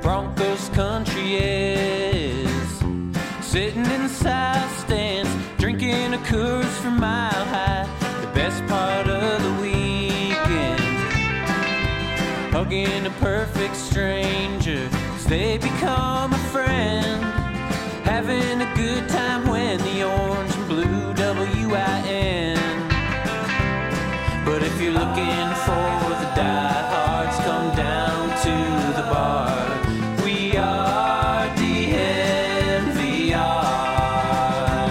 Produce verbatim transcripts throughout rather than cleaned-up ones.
Broncos country is. Sitting in the south stands, drinking a Coors from Mile High. The best part of the weekend, hugging a perfect stranger, 'cause they become a friend. Having a good time when the orange and blue W I N. But if you're looking for the diehards, come down to the bar. We are D N V R.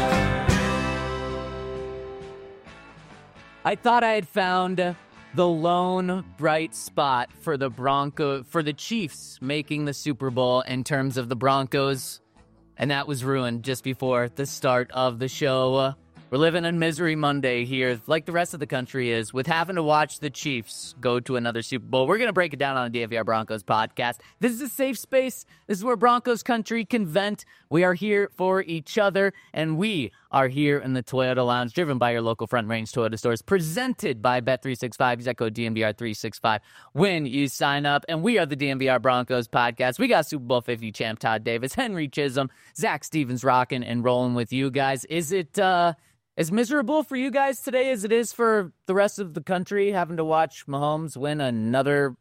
I thought I had found the lone bright spot for the Bronco, for the Chiefs making the Super Bowl in terms of the Broncos, and that was ruined just before the start of the show. We're living in Misery Monday here, like the rest of the country is, with having to watch the Chiefs go to another Super Bowl. We're going to break it down on the D N V R Broncos podcast. This is a safe space. This is where Broncos country can vent. We are here for each other, and we are here in the Toyota Lounge, driven by your local Front Range Toyota stores, presented by Bet three sixty-five. Use that code D N V R three sixty-five when you sign up. And we are the D N V R Broncos podcast. We got Super Bowl fifty champ Todd Davis, Henry Chisholm, Zach Stevens rocking and rolling with you guys. Is it uh, as miserable for you guys today as it is for the rest of the country, having to watch Mahomes win another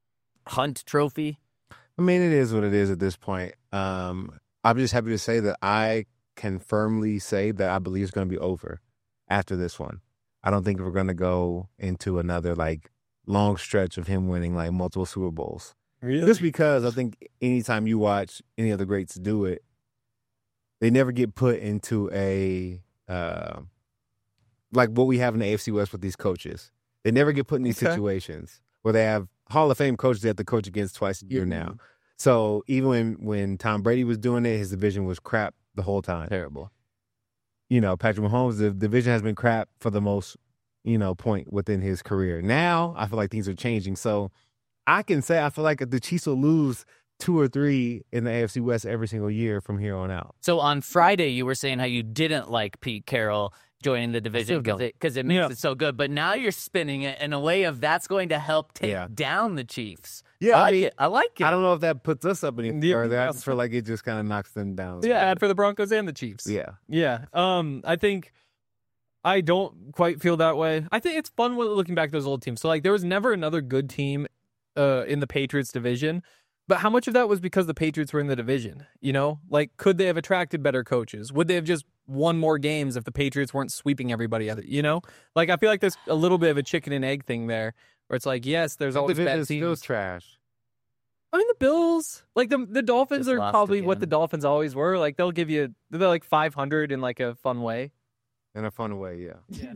Hunt trophy? I mean, it is what it is at this point. Um, I'm just happy to say that I can firmly say that I believe it's going to be over after this one. I don't think we're going to go into another, like, long stretch of him winning, like, multiple Super Bowls. Really? Just because I think anytime you watch any of the greats do it, they never get put into a, uh, like what we have in the A F C West with these coaches. They never get put in these Okay. situations where they have Hall of Fame coaches they have to coach against twice a year Mm-hmm. now. So even when, when Tom Brady was doing it, his division was crap the whole time. Terrible. You know, Patrick Mahomes, the division has been crap for the most, you know, point within his career. Now, I feel like things are changing. So I can say I feel like the Chiefs will lose two or three in the A F C West every single year from here on out. So on Friday, you were saying how you didn't like Pete Carroll joining the division because it, 'cause it makes Yeah. it so good. But now you're spinning it in a way of that's going to help take Yeah. down the Chiefs. Yeah, I I like mean, it. I like it. I don't know if that puts us up any Yeah. further. I just feel like it just kind of knocks them down. Yeah, bad for the Broncos and the Chiefs. Yeah. Yeah. Um, I think I don't quite feel that way. I think it's fun when looking back at those old teams. So, like, there was never another good team uh, in the Patriots division. But how much of that was because the Patriots were in the division? You know, like, could they have attracted better coaches? Would they have just won more games if the Patriots weren't sweeping everybody other? You know, like, I feel like there's a little bit of a chicken and egg thing there, where it's like, yes, there's The always division bad is still teams. trash. I mean, the Bills, like the the Dolphins, Just are lost probably what again. the Dolphins always were. Like, they'll give you, they're like five hundred in like a fun way. In a fun way, yeah.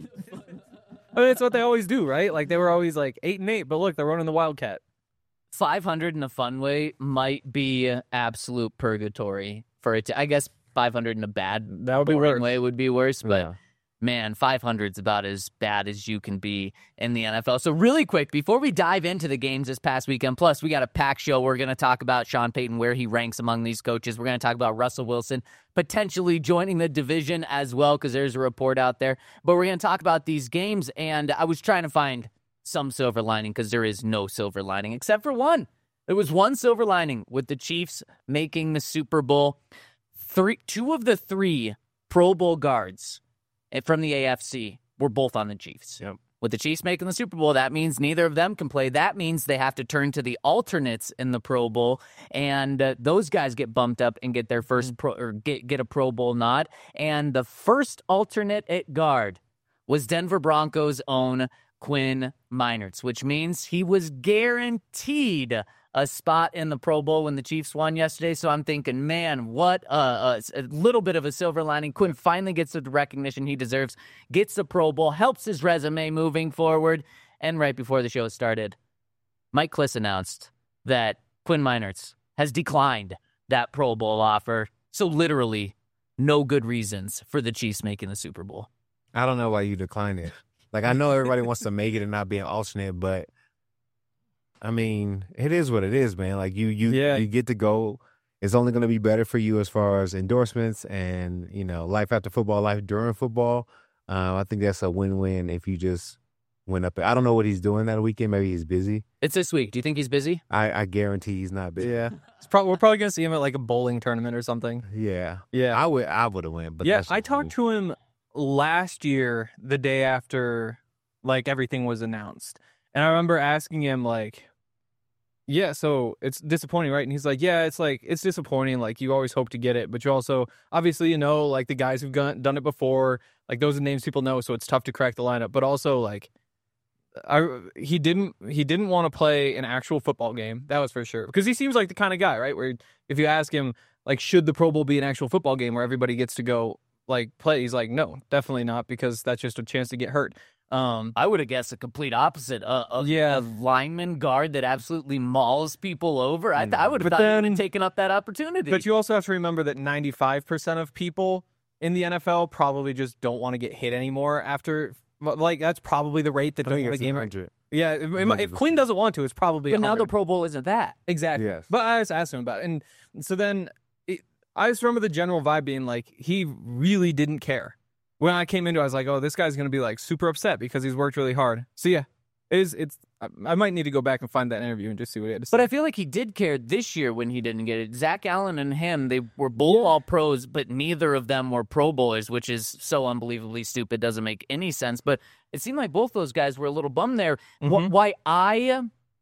I mean, it's what they always do, right? Like, they were always like eight and eight, but look, they're running the Wildcat. five hundred in a fun way might be absolute purgatory for it. To, I guess five hundred in a bad That would be boring worse. way would be worse, but Yeah. man, five hundred is about as bad as you can be in the N F L. So really quick, before we dive into the games this past weekend, plus we got a packed show. We're going to talk about Sean Payton, where he ranks among these coaches. We're going to talk about Russell Wilson potentially joining the division as well, because there's a report out there. But we're going to talk about these games, and I was trying to find some silver lining, because there is no silver lining except for one. There was one silver lining with the Chiefs making the Super Bowl. Three, two of the three Pro Bowl guards from the A F C were both on the Chiefs. Yep. With the Chiefs making the Super Bowl, that means neither of them can play. That means they have to turn to the alternates in the Pro Bowl, and uh, those guys get bumped up and get their first pro, or get get a Pro Bowl nod. And the first alternate at guard was Denver Broncos' own Quinn Meinerz, which means he was guaranteed a spot in the Pro Bowl when the Chiefs won yesterday. So I'm thinking, man, what a, a, a little bit of a silver lining. Quinn finally gets the recognition he deserves, gets the Pro Bowl, helps his resume moving forward. And right before the show started, Mike Klis announced that Quinn Meinerz has declined that Pro Bowl offer. So literally no good reasons for the Chiefs making the Super Bowl. I don't know why you declined it. Like, I know everybody wants to make it and not be an alternate, but I mean, it is what it is, man. Like, you you, Yeah. you get to go. It's only going to be better for you as far as endorsements and, you know, life after football, life during football. Uh, I think that's a win-win if you just went up. I don't know what he's doing that weekend. Maybe he's busy. It's this week. Do you think he's busy? I, I guarantee he's not busy. Yeah, it's probably, we're probably gonna see him at like a bowling tournament or something. Yeah. Yeah, I would I would have went. But yeah, that's I just talked me. to him last year, the day after like everything was announced, and I remember asking him like, "Yeah, so it's disappointing, right?" And he's like, "Yeah, it's like it's disappointing. Like you always hope to get it, but you also obviously you know like the guys who've gone, done it before, like those are names people know, so it's tough to crack the lineup. But also like." I, he didn't he didn't want to play an actual football game. That was for sure. Because he seems like the kind of guy, right? Where if you ask him, like, should the Pro Bowl be an actual football game where everybody gets to go, like, play? He's like, no, definitely not, because that's just a chance to get hurt. Um, I would have guessed a complete opposite. Uh, a, Yeah. a lineman guard that absolutely mauls people over. I, th- I would have But thought then- you'd taken up that opportunity. but you also have to remember that ninety-five percent of people in the N F L probably just don't want to get hit anymore after, like, that's probably the rate that I don't think want it's to game. one hundred. Yeah, it- it might- if Quinn doesn't want to, it's probably but now the one hundred. Pro Bowl isn't that. Exactly. Yes. But I just asked him about it. And so then it, I just remember the general vibe being like, he really didn't care. When I came into it, I was like, oh, this guy's going to be like super upset because he's worked really hard. So yeah, it is, it's, I, I might need to go back and find that interview and just see what he had to say. But I feel like he did care this year when he didn't get it. Zach Allen and him, they were both all pros, but neither of them were Pro Bowlers, which is so unbelievably stupid. Doesn't make any sense. But it seemed like both those guys were a little bummed there. Wh- Mhm. Why I,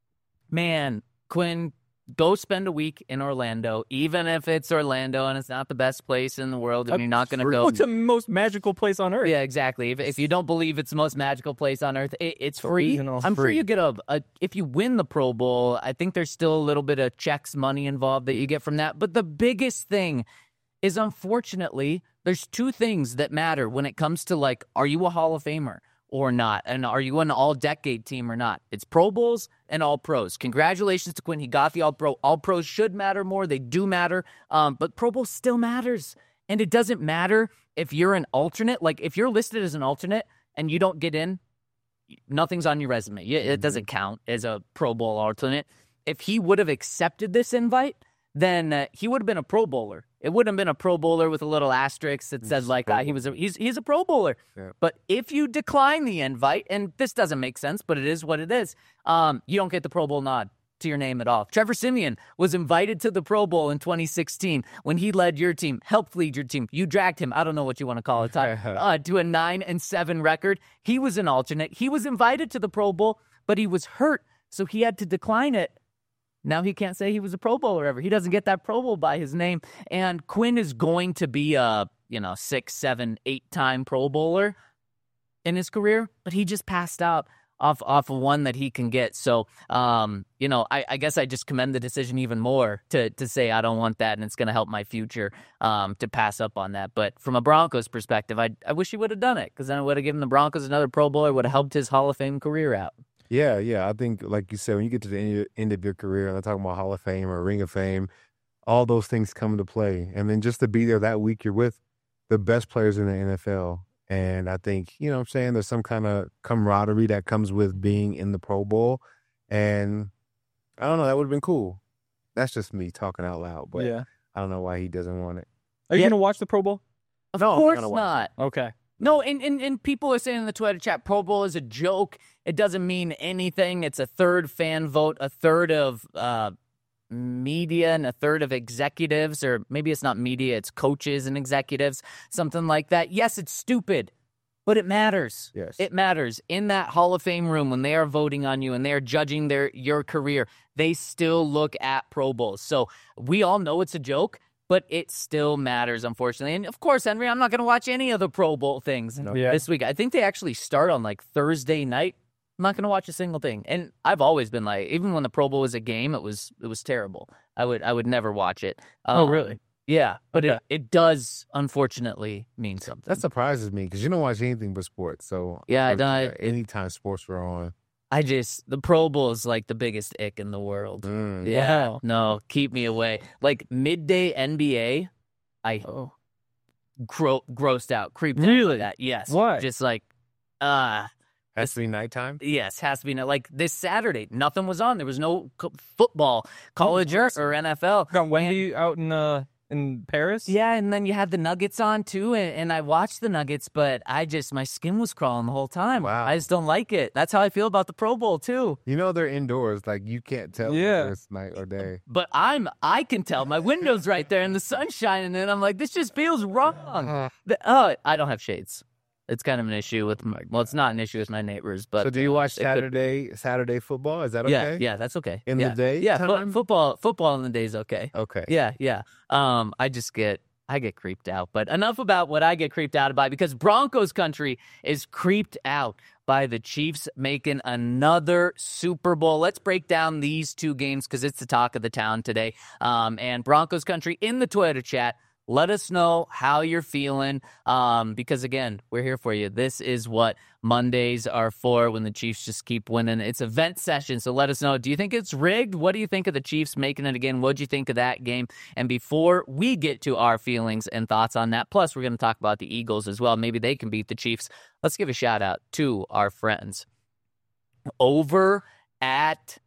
man, Quinn, go spend a week in Orlando, even if it's Orlando and it's not the best place in the world, and you're not going to go. What's the most magical place on earth? Yeah, exactly. If, if you don't believe it's the most magical place on earth, it, it's free. Original. I'm sure Free. you get a, a. If you win the Pro Bowl, I think there's still a little bit of checks money involved that you get from that. But the biggest thing is, unfortunately, there's two things that matter when it comes to, like, are you a Hall of Famer or not? And are you an all-decade team or not? It's Pro Bowls and All-Pros. Congratulations to Quinn. He got the All-Pro. All-Pros should matter more. They do matter. Um, but Pro Bowl still matters. And it doesn't matter if you're an alternate. Like, if you're listed as an alternate and you don't get in, nothing's on your resume. You- It doesn't count as a Pro Bowl alternate. If he would have accepted this invite, then uh, he would have been a Pro Bowler. It wouldn't have been a Pro Bowler with a little asterisk that says, like, ah, he was a, he's he's a Pro Bowler. Yeah. But if you decline the invite, and this doesn't make sense, but it is what it is, um, you don't get the Pro Bowl nod to your name at all. Trevor Siemian was invited to the Pro Bowl in twenty sixteen when he led your team, helped lead your team. You dragged him, I don't know what you want to call it, uh, to a nine and seven record. He was an alternate. He was invited to the Pro Bowl, but he was hurt, so he had to decline it. Now he can't say he was a Pro Bowler ever. He doesn't get that Pro Bowl by his name. And Quinn is going to be a, you know, six, seven, eight-time Pro Bowler in his career, but he just passed out off off of one that he can get. So, um, you know, I, I guess I just commend the decision even more to to say I don't want that, and it's going to help my future um, to pass up on that. But from a Broncos perspective, I I wish he would have done it, because then it would have given the Broncos another Pro Bowler, would have helped his Hall of Fame career out. Yeah, yeah. I think, like you said, when you get to the end, end of your career, and I'm talking about Hall of Fame or Ring of Fame, all those things come into play. And then just to be there that week, you're with the best players in the N F L. And I think, you know what I'm saying, there's some kind of camaraderie that comes with being in the Pro Bowl. And I don't know, that would have been cool. That's just me talking out loud. But yeah. I don't know why he doesn't want it. Are you Yeah. going to watch the Pro Bowl? Of No, I'm course gonna watch not. Okay. No, and, and, and people are saying in the Twitter chat, Pro Bowl is a joke. It doesn't mean anything. It's a third fan vote, a third of uh, media, and a third of executives, or maybe it's not media, it's coaches and executives, something like that. Yes, it's stupid, but it matters. Yes. It matters. In that Hall of Fame room, when they are voting on you and they are judging their your career, they still look at Pro Bowls. So we all know it's a joke, but it still matters, unfortunately. And, of course, Henry, I'm not going to watch any of the Pro Bowl things Yeah. this week. I think they actually start on, like, Thursday night. I'm not going to watch a single thing. And I've always been like, even when the Pro Bowl was a game, it was it was terrible. I would I would never watch it. Oh, Um, really? Yeah, but Okay. it, it does, unfortunately, mean something. That surprises me because you don't watch anything but sports. So Yeah, I I- don't- anytime sports were on. I just, the Pro Bowl is like the biggest ick in the world. Mm. Yeah. Wow. No, keep me away. Like midday N B A, I Oh. gro- grossed out, creeped out Really? by that. Yes. Why? Just like, uh, Has to be nighttime. yes, has to be no- like this Saturday. Nothing was on. There was no co- football, college or, or N F L. Got Wendy out in uh in Paris. Yeah, and then you had the Nuggets on too, and, and I watched the Nuggets, but I just my skin was crawling the whole time. Wow. I just don't like it. That's how I feel about the Pro Bowl too. You know they're indoors, like you can't tell Yeah. whether it's night or day. But I'm I can tell my window's right there and the sun's shining, and I'm like, this just feels wrong. The- oh, I don't have shades. It's kind of an issue with my, well, it's not an issue with my neighbors, but So do you watch it could- Saturday Saturday football? Is that okay? Yeah, yeah, that's okay. In the yeah. day yeah, fo- time? football, football in the day is okay. Okay. Yeah, yeah. Um, I just get I get creeped out. But enough about what I get creeped out by, because Broncos country is creeped out by the Chiefs making another Super Bowl. Let's break down these two games because it's the talk of the town today. Um, and Broncos country in the Toyota chat. Let us know how you're feeling, um, because, again, we're here for you. This is what Mondays are for when the Chiefs just keep winning. It's event session, so let us know. Do you think it's rigged? What do you think of the Chiefs making it again? What do you think of that game? And before we get to our feelings and thoughts on that, plus we're going to talk about the Eagles as well. Maybe they can beat the Chiefs. Let's give a shout-out to our friends over at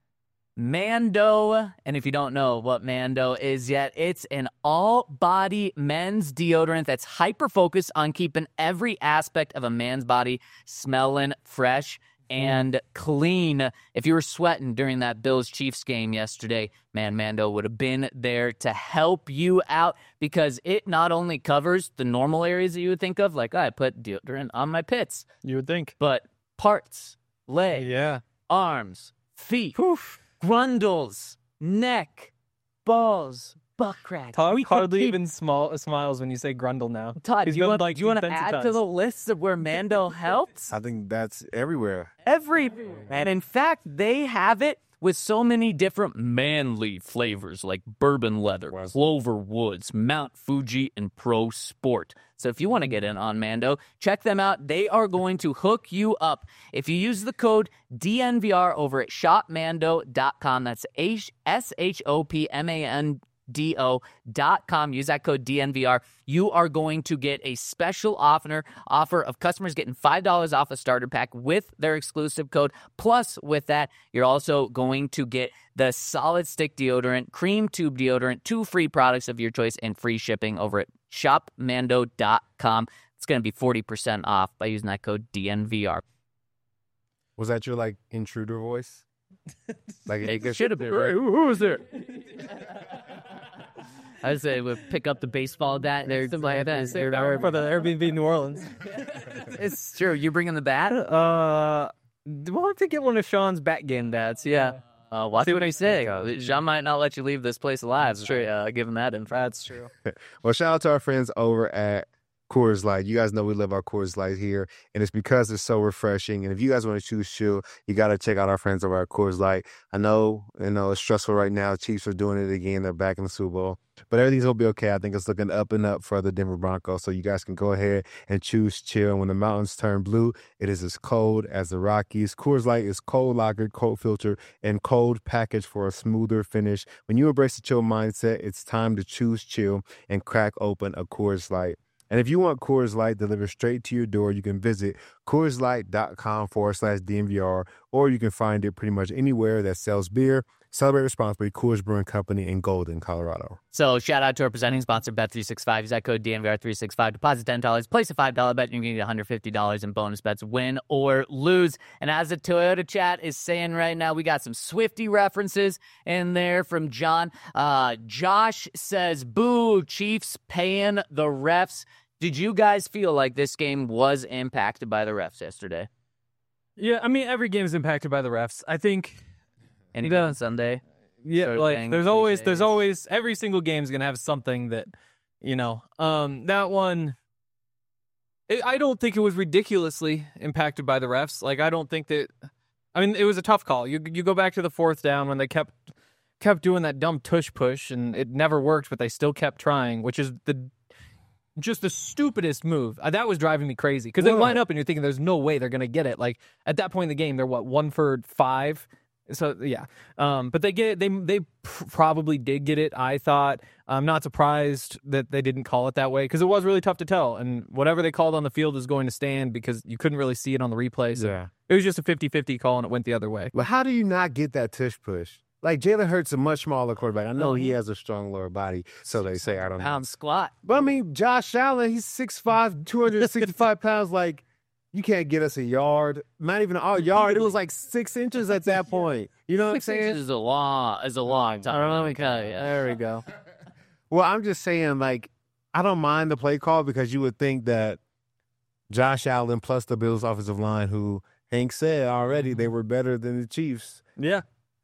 Mando. And if you don't know what Mando is yet, it's an all-body men's deodorant that's hyper-focused on keeping every aspect of a man's body smelling fresh and clean. If you were sweating during that Bills-Chiefs game yesterday, man, Mando would have been there to help you out, because it not only covers the normal areas that you would think of, like, oh, I put deodorant on my pits, You would think. but parts, legs, Yeah. arms, feet, grundles, neck, balls, butt crack. Todd We hardly could keep- even small, smiles when you say Grundle now. Todd, He's do you been, want, like, do you want to defensive add to times. the list of where Mando helps? I think that's everywhere. Every, and in fact, they have it with so many different manly flavors like bourbon leather, Clover Woods, Mount Fuji, and Pro Sport. So if you want to get in on Mando, check them out. They are going to hook you up. If you use the code D N V R over at shop mando dot com, that's S H O P M A N D O dot com. Use that code D N V R. You are going to get a special offer, offer of customers getting five dollars off a starter pack with their exclusive code. Plus, with that, you're also going to get the solid stick deodorant, cream tube deodorant, two free products of your choice, and free shipping over at shop mando dot com. It's going to be forty percent off by using that code D N V R. Was that your like intruder voice? Like It should have been. Right. Who, who was there? I would say would pick up the baseball bat there, something like that. For the Airbnb New Orleans. It's true. You bringing the bat? Uh, we'll have to get one of Sean's bat game bats. Yeah. Uh, watch what I say. Jean might not let you leave this place alive. That's true. Uh, give him that info. That's true. Well, shout out to our friends over at Coors Light. You guys know we love our Coors Light here, and it's because it's so refreshing. And if you guys want to choose chill, you got to check out our friends over at Coors Light. I know, you know, it's stressful right now. Chiefs are doing it again. They're back in the Super Bowl, but everything's gonna be okay. I think it's looking up and up for the Denver Broncos. So you guys can go ahead and choose chill. And when the mountains turn blue, it is as cold as the Rockies. Coors Light is cold lagered, cold filtered, and cold packaged for a smoother finish. When you embrace the chill mindset, it's time to choose chill and crack open a Coors Light. And if you want Coors Light delivered straight to your door, you can visit Coors Light dot com forward slash D N V R, or you can find it pretty much anywhere that sells beer. Celebrate responsibly. Coors Brewing Company in Golden, Colorado. So shout out to our presenting sponsor, Bet three sixty-five. Use that code D N V R three sixty-five. Deposit ten dollars. Place a five dollars bet, and you can get one hundred fifty dollars in bonus bets, win or lose. And as the Toyota chat is saying right now, we got some Swifty references in there from John. Uh, Josh says, boo, Chiefs paying the refs. Did you guys feel like this game was impacted by the refs yesterday? Yeah, I mean, every game is impacted by the refs. I think. Anything on Sunday? Yeah, sort of like thing, there's always, there's cliches. always, every single game is gonna have something that, you know, um, that one. It, I don't think it was ridiculously impacted by the refs. Like, I don't think that. I mean, it was a tough call. You you go back to the fourth down when they kept kept doing that dumb tush push, and it never worked, but they still kept trying, which is the. Just the stupidest move. Uh, that was driving me crazy because they Whoa. line up and you're thinking there's no way they're going to get it. Like at that point in the game, they're what, one for five? So yeah. Um, but they get it. They, they pr- probably did get it. I thought. I'm not surprised that they didn't call it that way because it was really tough to tell. And whatever they called on the field is going to stand because you couldn't really see it on the replay. So Yeah. it was just a fifty-fifty call and it went the other way. But how do you not get that tush push? like Jalen Hurts, a much smaller quarterback. I know he has a strong lower body, so they say. I don't know. Pound squat. But I mean, Josh Allen, he's six five, two hundred sixty-five pounds. Like, you can't get us a yard. Not even a yard. It was like six inches at that point. You know what I'm Six saying? inches is a long, is a long time. Let me tell you. There we go. Well, I'm just saying, like, I don't mind the play call because you would think that Josh Allen plus the Bills offensive line, who Hank said already they were better than the Chiefs. Yeah.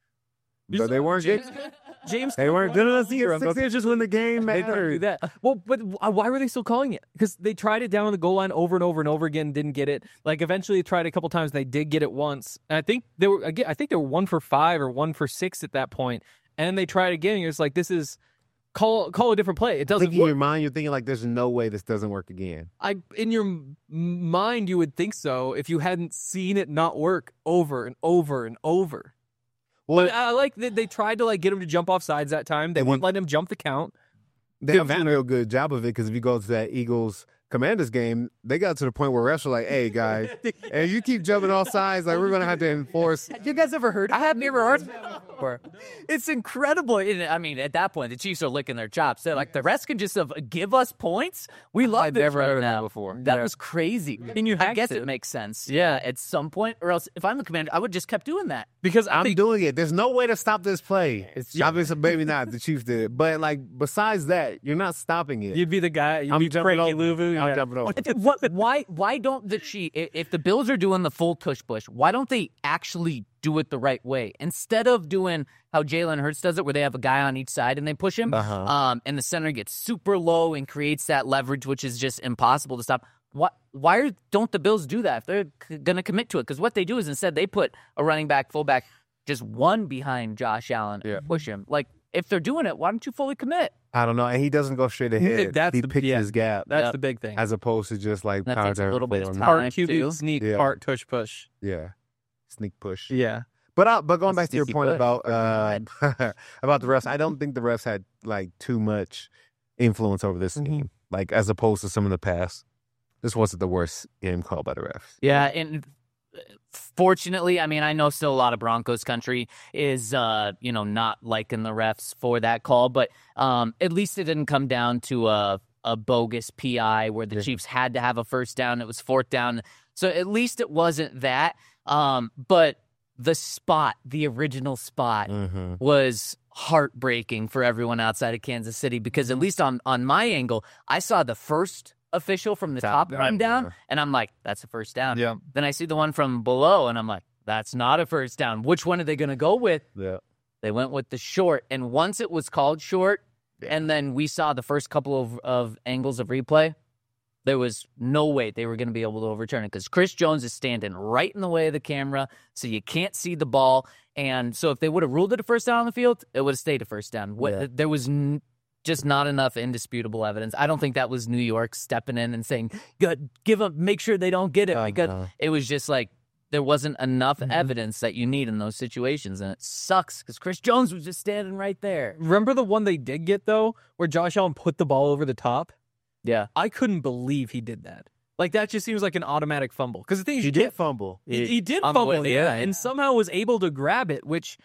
But they weren't good. James, They weren't good enough to get six inches when the game They don't do mattered. that. Well, but why were they still calling it? Because they tried it down on the goal line over and over and over again, didn't get it. Like eventually, they tried it a couple times. And they did get it once, and I think they were again. I think they were one for five or one for six at that point. And then they tried again. And you're just like, this is call call a different play. It I doesn't think in work. your mind, you're thinking, like, there's no way this doesn't work again. I in your m- mind, you would think so if you hadn't seen it not work over and over and over. Well, I like that they tried to like get him to jump off sides that time. They wouldn't let him jump the count. they haven't done a real good job of it because if you go to that Eagles Commanders game, they got to the point where refs were like, hey, guys, and you keep jumping off sides, like, we're going to have to enforce. You guys ever heard? I have never heard that before. It's incredible. And, I mean, at that point, the Chiefs are licking their chops. They're like, the rest can just uh, give us points. We love I've this never right heard of now. that before. That Yeah. was crazy. And you I have guess to. it makes sense. Yeah, at some point, or else if I'm the commander, I would just kept doing that. Because I I'm think doing it. There's no way to stop this play. It's obviously maybe not. The Chiefs did it, but like besides that, you're not stopping it. you'd be the guy. You'd I'm be jumping Frankie over. Louvu. I'm Yeah. jumping over. What? Why? Why don't the Chiefs? If the Bills are doing the full tush push, why don't they actually do it the right way instead of doing how Jalen Hurts does it, where they have a guy on each side and they push him, Uh-huh. um, and the center gets super low and creates that leverage, which is just impossible to stop. Why? Why are, don't the Bills do that if they're c- going to commit to it? Because what they do is instead they put a running back, fullback, just one behind Josh Allen, Yeah. and push him. Like if they're doing it, why don't you fully commit? I don't know, and he doesn't go straight ahead. That's he the- picks yeah. his gap That's Yep. the big thing. as opposed to just like That power takes a down little bit of forward. time. Part Time, Q B too. sneak, Yeah. part tush push. Yeah, sneak push. Yeah. But I, but going That's back to your sneaky point push. about uh, about the refs, I don't think the refs had like too much influence over this Mhm. game, like as opposed to some of the past. This wasn't the worst game called by the refs. Yeah, and fortunately, I mean, I know still a lot of Broncos country is, uh, you know, not liking the refs for that call, but um, at least it didn't come down to a, a bogus P I where the Yeah. Chiefs had to have a first down. It was fourth down. So at least it wasn't that. Um, but the spot, the original spot, Mm-hmm. was heartbreaking for everyone outside of Kansas City because at least on, on my angle, I saw the first official from the top Top run down. down, and I'm like, that's a first down. Yeah. Then I see the one from below, and I'm like, that's not a first down. Which one are they going to go with? Yeah. They went with the short. And once it was called short, and then we saw the first couple of, of angles of replay, there was no way they were going to be able to overturn it because Chris Jones is standing right in the way of the camera, so you can't see the ball. And so if they would have ruled it a first down on the field, it would have stayed a first down. What, Yeah. There was n- just not enough indisputable evidence. I don't think that was New York stepping in and saying, "Good, give them, make sure they don't get it." Uh, because no. it was just like there wasn't enough Mhm. evidence that you need in those situations, and it sucks because Chris Jones was just standing right there. Remember the one they did get, though, where Josh Allen put the ball over the top? Yeah, I couldn't believe he did that. Like, that just seems like an automatic fumble. Because the thing is, He you did can't- fumble. He, he did I'm fumble, with you. yeah, and somehow was able to grab it, which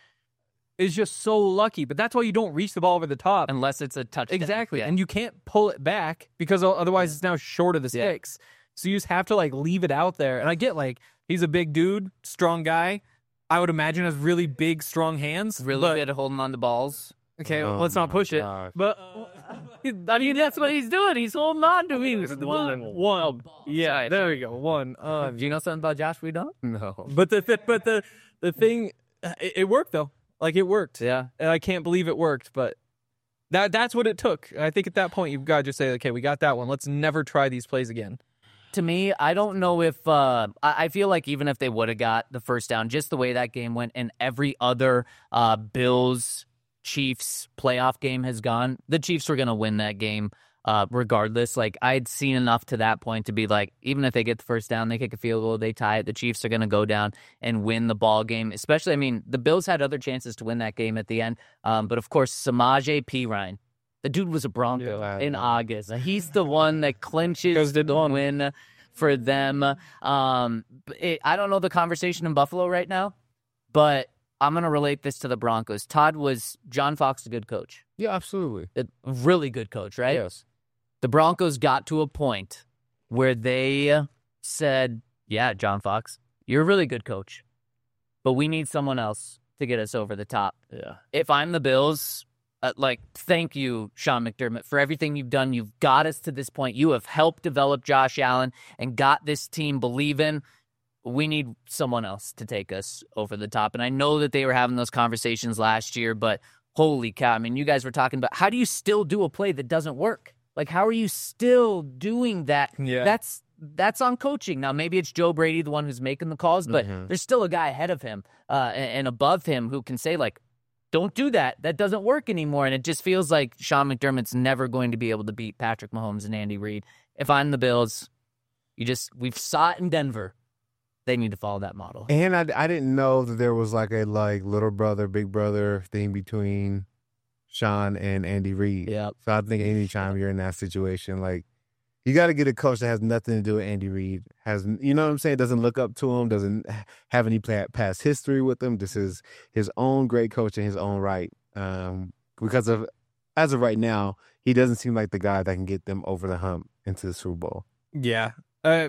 is just so lucky. But that's why you don't reach the ball over the top. unless it's a touchdown. Exactly. Yeah. And you can't pull it back because o- otherwise it's now short of the Yeah. sticks. So you just have to like leave it out there. And I get like he's a big dude, strong guy. I would imagine has really big, strong hands. really but, good at holding on to balls. Okay, Oh let's not my push it. gosh. But I mean, that's what he's doing. He's holding on to me. one, one. Yeah, there we go. One. Uh, Do you know something about Josh we don't? No. but the th- but the the thing, it, it worked though. Like it worked. Yeah. And I can't believe it worked, but that that's what it took. I think at that point you've got to just say, okay, we got that one. Let's never try these plays again. To me, I don't know if uh, I I feel like even if they would have got the first down, just the way that game went, and every other uh, Bills Chiefs playoff game has gone, the Chiefs were going to win that game uh, regardless. Like I'd seen enough to that point to be like, even if they get the first down, they kick a field goal, they tie it, the Chiefs are going to go down and win the ball game. Especially, I mean, the Bills had other chances to win that game at the end, um, but of course, Samaje Perine. The dude was a Bronco Yeah, I in know. August. He's the one that clinches the win for them. Um, it, I don't know the conversation in Buffalo right now, but I'm going to relate this to the Broncos. Todd, was John Fox a good coach? Yeah, absolutely. A really good coach, right? Yes. The Broncos got to a point where they said, yeah, John Fox, you're a really good coach, but we need someone else to get us over the top. Yeah. If I'm the Bills, uh, like, thank you, Sean McDermott, for everything you've done. You've got us to this point. You have helped develop Josh Allen and got this team believing. We need someone else to take us over the top. And I know that they were having those conversations last year, but holy cow. I mean, you guys were talking about, how do you still do a play that doesn't work? Like, how are you still doing that? Yeah. That's that's on coaching. Now, maybe it's Joe Brady, the one who's making the calls, but Mhm. there's still a guy ahead of him uh, and, and above him who can say, like, don't do that. That doesn't work anymore. And it just feels like Sean McDermott's never going to be able to beat Patrick Mahomes and Andy Reid. If I'm the Bills, you just, we've saw it in Denver. They need to follow that model. And I, I didn't know that there was like a like little brother, big brother thing between Sean and Andy Reid. Yep. So I think anytime you're in that situation, like, you got to get a coach that has nothing to do with Andy Reid. Has, you know what I'm saying? Doesn't look up to him. Doesn't have any past history with him. This is his own great coach in his own right. Um, because of, as of right now, he doesn't seem like the guy that can get them over the hump into the Super Bowl. Yeah. Uh,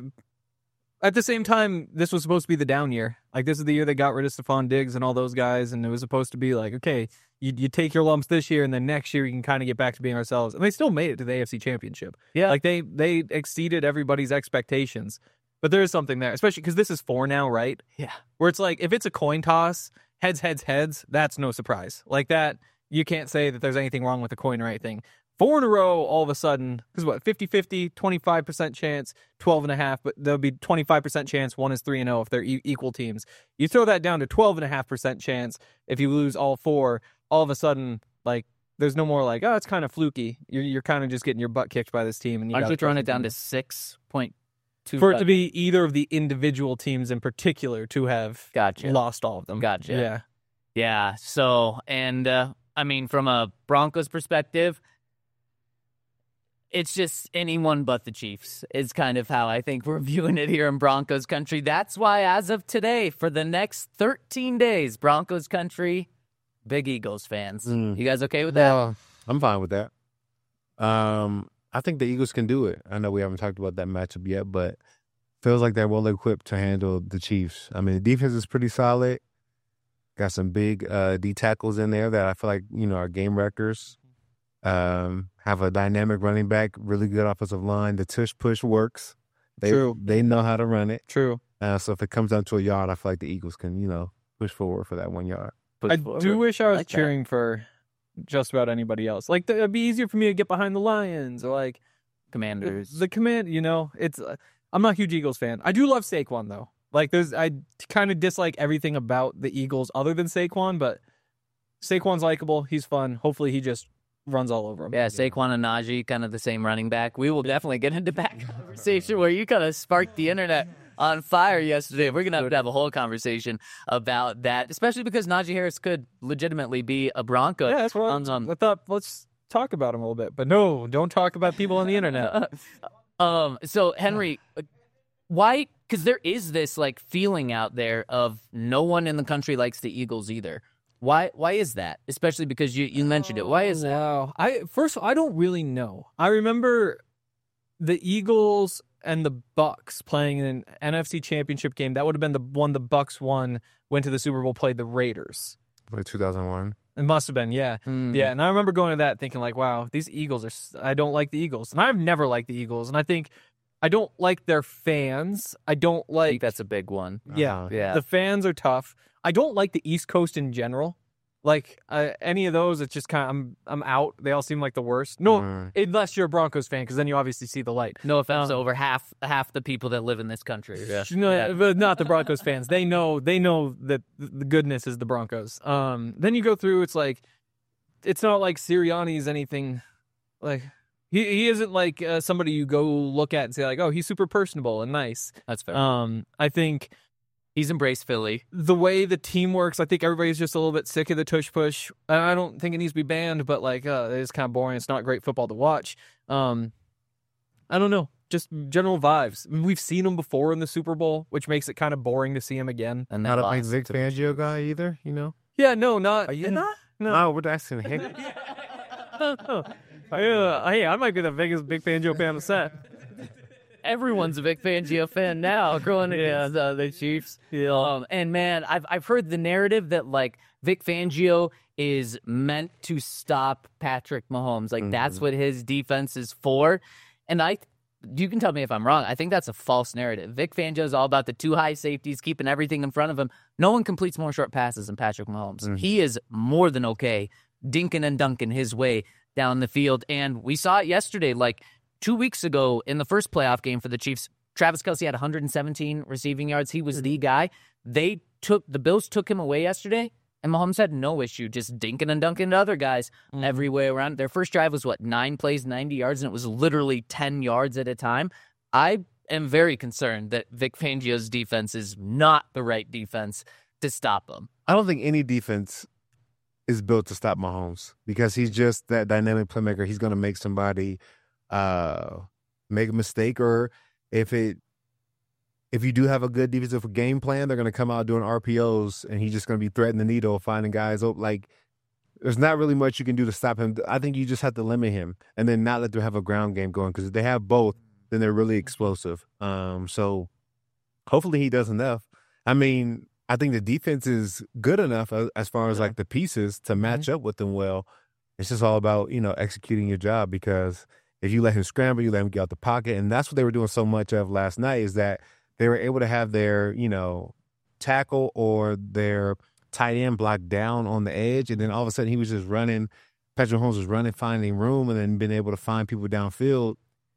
at the same time, this was supposed to be the down year. Like, this is the year they got rid of Stephon Diggs and all those guys, and it was supposed to be like, okay, you you take your lumps this year, and then next year you can kind of get back to being ourselves. And they still made it to the A F C Championship. Yeah. Like, they they exceeded everybody's expectations. But there is something there, especially because this is four now, right? Yeah. Where it's like, if it's a coin toss, heads, heads, heads, that's no surprise. Like that, you can't say that there's anything wrong with the coin or anything. Four in a row, all of a sudden, because what, fifty-fifty, twenty-five percent chance, twelve and a half, but there'll be twenty-five percent chance one is three and oh if they're e- equal teams. You throw that down to twelve and a half percent chance if you lose all four, all of a sudden, like, there's no more like, oh, it's kind of fluky. You're you're kind of just getting your butt kicked by this team. And you Aren't gotta you throwing trust it down them. to six point two? For it to be either of the individual teams in particular to have Gotcha. lost all of them. Gotcha. Yeah. Yeah. So, and uh, I mean, from a Broncos perspective, it's just anyone but the Chiefs is kind of how I think we're viewing it here in Broncos country. That's why, as of today, for the next thirteen days, Broncos country, big Eagles fans. Mm. You guys okay with that? Well, I'm fine with that. Um, I think the Eagles can do it. I know we haven't talked about that matchup yet, but feels like they're well equipped to handle the Chiefs. I mean, the defense is pretty solid. Got some big uh, D tackles in there that I feel like, you know, are game wreckers. Um, have a dynamic running back, really good offensive line. The tush push works. They, True. They know how to run it. True. Uh, so if it comes down to a yard, I feel like the Eagles can, you know, push forward for that one yard. Push I forward. do wish I was like that. cheering for just about anybody else. Like, th- it'd be easier for me to get behind the Lions or like Commanders. the command. You know, it's. Uh, I'm not a huge Eagles fan. I do love Saquon though. Like, there's I kind of dislike everything about the Eagles other than Saquon, but Saquon's likable. He's fun. Hopefully, he just runs all over him. Yeah, Saquon and Najee, kind of the same running back. We will definitely get into that conversation where you kind of sparked the internet on fire yesterday. We're going to have to have a whole conversation about that, especially because Najee Harris could legitimately be a Bronco. Yeah, that's what Um, um, I thought. Let's talk about him a little bit, but no, don't talk about people on the internet. um. So, Henry, why? Because there is this, like, feeling out there of no one in the country likes the Eagles either. Why Why is that? Especially because you, you mentioned it. Why is that? Wow. I first I don't really know. I remember the Eagles and the Bucks playing in an N F C Championship game. That would have been the one the Bucks won, went to the Super Bowl, played the Raiders. For two thousand one. It must have been, yeah. Mm. Yeah, and I remember going to that thinking like, wow, these Eagles are s- I don't like the Eagles. And I've never liked the Eagles, and I think I don't like their fans. I don't I like think that's a big one. yeah. Uh-huh. Yeah. The fans are tough. I don't like the East Coast in general. Like uh, any of those, it's just kind of I'm I'm out. They all seem like the worst. No, Mm. unless you're a Broncos fan, because then you obviously see the light. No offense to Um, over half half the people that live in this country. Yeah. No, but not the Broncos fans. They know they know that the goodness is the Broncos. Um, then you go through. It's like it's not like Sirianni's anything. Like he he isn't like uh, somebody you go look at and say like, oh, he's super personable and nice. That's fair. Um, I think. He's embraced Philly. The way the team works, I think everybody's just a little bit sick of the tush push. I don't think it needs to be banned, but like, uh, it's kind of boring. It's not great football to watch. Um, I don't know, just general vibes. I mean, we've seen them before in the Super Bowl, which makes it kind of boring to see them again. And Not they a big lost Vic to- Fangio guy either, you know? Yeah, no, not. Are you not? No. No, we're asking him. Oh, yeah, hey, I might be the biggest Vic Fangio fan on the set. Everyone's a Vic Fangio fan now, growing against uh, the Chiefs. Yeah. Um, and man, I've I've heard the narrative that like Vic Fangio is meant to stop Patrick Mahomes. Like mm-hmm. that's what his defense is for. And I, you can tell me if I'm wrong. I think that's a false narrative. Vic Fangio is all about the two high safeties, keeping everything in front of him. No one completes more short passes than Patrick Mahomes. Mm-hmm. He is more than okay dinking and dunking his way down the field. And we saw it yesterday. Like two weeks ago in the first playoff game for the Chiefs, Travis Kelce had one hundred seventeen receiving yards. He was the guy. They took the Bills took him away yesterday, and Mahomes had no issue just dinking and dunking to other guys mm-hmm. every way around. Their first drive was, what, nine plays, ninety yards, and it was literally ten yards at a time. I am very concerned that Vic Fangio's defense is not the right defense to stop him. I don't think any defense is built to stop Mahomes because he's just that dynamic playmaker. He's going to make somebody uh, make a mistake, or if it if you do have a good defensive game plan, they're going to come out doing R P Os, and he's just going to be threading the needle, finding guys. Oh, like there's not really much you can do to stop him. I think you just have to limit him, and then not let them have a ground game going, because if they have both, then they're really explosive. Um, so hopefully he does enough. I mean, I think the defense is good enough as, as far as yeah. like the pieces to match mm-hmm. up with them well. It's just all about, you know, executing your job, because if you let him scramble, you let him get out the pocket. And that's what they were doing so much of last night, is that they were able to have their, you know, tackle or their tight end blocked down on the edge. And then all of a sudden he was just running. Patrick Mahomes was running, finding room, and then being able to find people downfield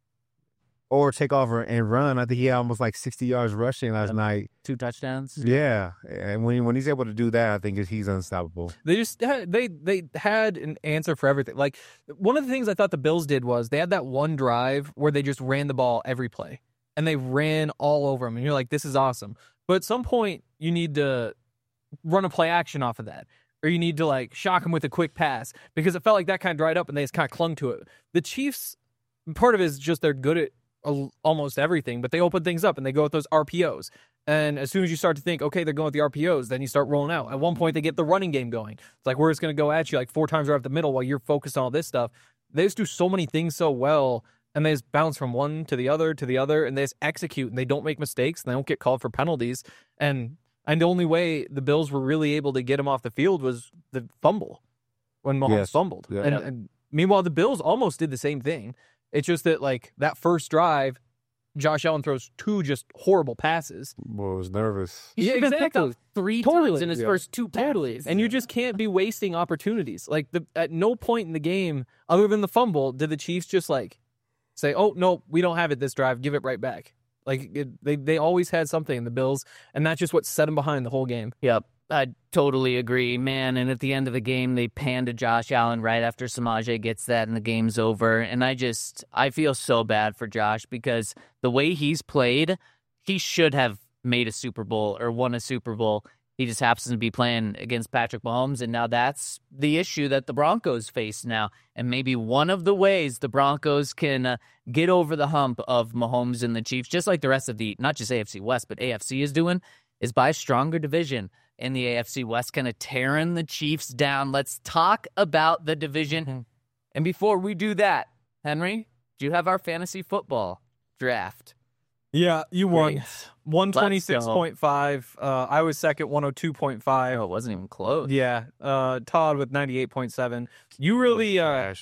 or take off and run. I think he had almost like sixty yards rushing last yep. night. Two touchdowns. Yeah. And when when he's able to do that, I think he's unstoppable. They just had, they they had an answer for everything. Like, one of the things I thought the Bills did was they had that one drive where they just ran the ball every play. And they ran all over him. And you're like, this is awesome. But at some point, you need to run a play action off of that. Or you need to, like, shock him with a quick pass. Because it felt like that kind of dried up and they just kind of clung to it. The Chiefs, part of it is just they're good at almost everything, but they open things up and they go with those R P Os. And as soon as you start to think, okay, they're going with the R P Os, then you start rolling out. At one point, they get the running game going. It's like, we're just going to go at you like four times right up the middle while you're focused on all this stuff. They just do so many things so well, and they just bounce from one to the other to the other, and they just execute, and they don't make mistakes, and they don't get called for penalties. And and the only way the Bills were really able to get him off the field was the fumble, when Mahomes yes. fumbled. Yeah. And, and meanwhile, the Bills almost did the same thing. It's just that, like, that first drive, Josh Allen throws two just horrible passes. Well, I was nervous. Yeah, exactly. Three totally. times in his yeah. first two totally. And you just can't be wasting opportunities. Like, the, at no point in the game, other than the fumble, did the Chiefs just, like, say, oh, no, we don't have it this drive, give it right back. Like, it, they, they always had something in the Bills, and that's just what set them behind the whole game. Yep. I totally agree, man. And at the end of the game, they pan to Josh Allen right after Samaje gets that and the game's over. And I just, I feel so bad for Josh, because the way he's played, he should have made a Super Bowl or won a Super Bowl. He just happens to be playing against Patrick Mahomes, and now that's the issue that the Broncos face now. And maybe one of the ways the Broncos can uh, get over the hump of Mahomes and the Chiefs, just like the rest of the, not just A F C West, but A F C is doing, is by a stronger division in the A F C West, kind of tearing the Chiefs down. Let's talk about the division. Mm-hmm. And before we do that, Henry, do you have our fantasy football draft? Yeah, you won. one twenty-six point five. Uh, I was second, one oh two point five. Oh, it wasn't even close. Yeah. Uh, Todd with ninety-eight point seven. You really, uh,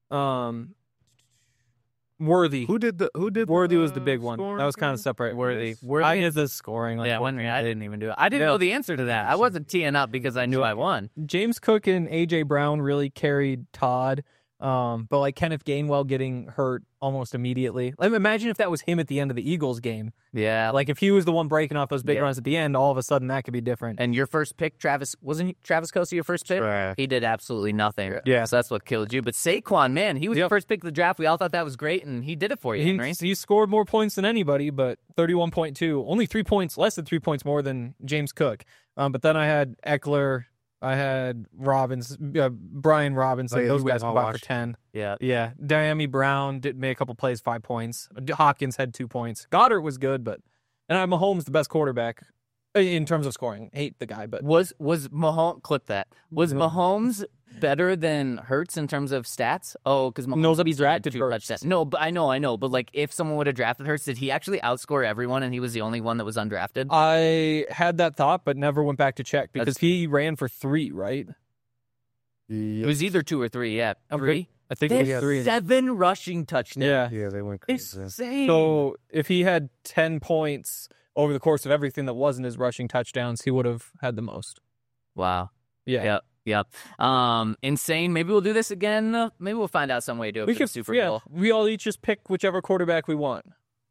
um, Worthy. Who did the, who did Worthy the, was the big one. That was kind of separate. Worthy. Worthy. I did the scoring. Like, yeah, when, I didn't even do it. I didn't yeah. know the answer to that. I wasn't teeing up because I knew I won. James Cook and A J Brown really carried Todd. Um, but like Kenneth Gainwell getting hurt almost immediately. Like, imagine if that was him at the end of the Eagles game. Yeah. Like if he was the one breaking off those big yeah. runs at the end, all of a sudden that could be different. And your first pick, Travis, wasn't he, Travis Kelce your first pick? Right. He did absolutely nothing. Yeah. So that's what killed you. But Saquon, man, he was yep. the first pick of the draft. We all thought that was great, and he did it for you, Henry. He, he scored more points than anybody, but thirty-one point two. Only three points, less than three points more than James Cook. Um, but then I had Eckler, I had Robbins, uh, Brian Robinson. Oh, yeah, those guys combined for ten. Yeah. Yeah. Diami Brown did make a couple plays, five points. Hopkins had two points. Goddard was good, but... And I have Mahomes, the best quarterback. in terms of scoring. Hate the guy, but Was was Mahomes clip that? Was Mahomes better than Hurts in terms of stats? Oh, because Mahomes Nobody's he's drafted drafted two Hurts. touchdowns. No, but I know, I know. But like, if someone would have drafted Hurts, did he actually outscore everyone, and he was the only one that was undrafted? I had that thought, but never went back to check because That's- he ran for three, right? It was either two or three. Yeah, three. I think They it was had three. seven rushing touchdowns. Yeah. Yeah, they went crazy. Insane. So if he had ten points over the course of everything that wasn't his rushing touchdowns, he would have had the most. Wow. Yeah. Yep. Yep. Um, insane. Maybe we'll do this again. Uh, Maybe we'll find out some way to do it We for could the Super yeah, Bowl. we all each just pick whichever quarterback we want.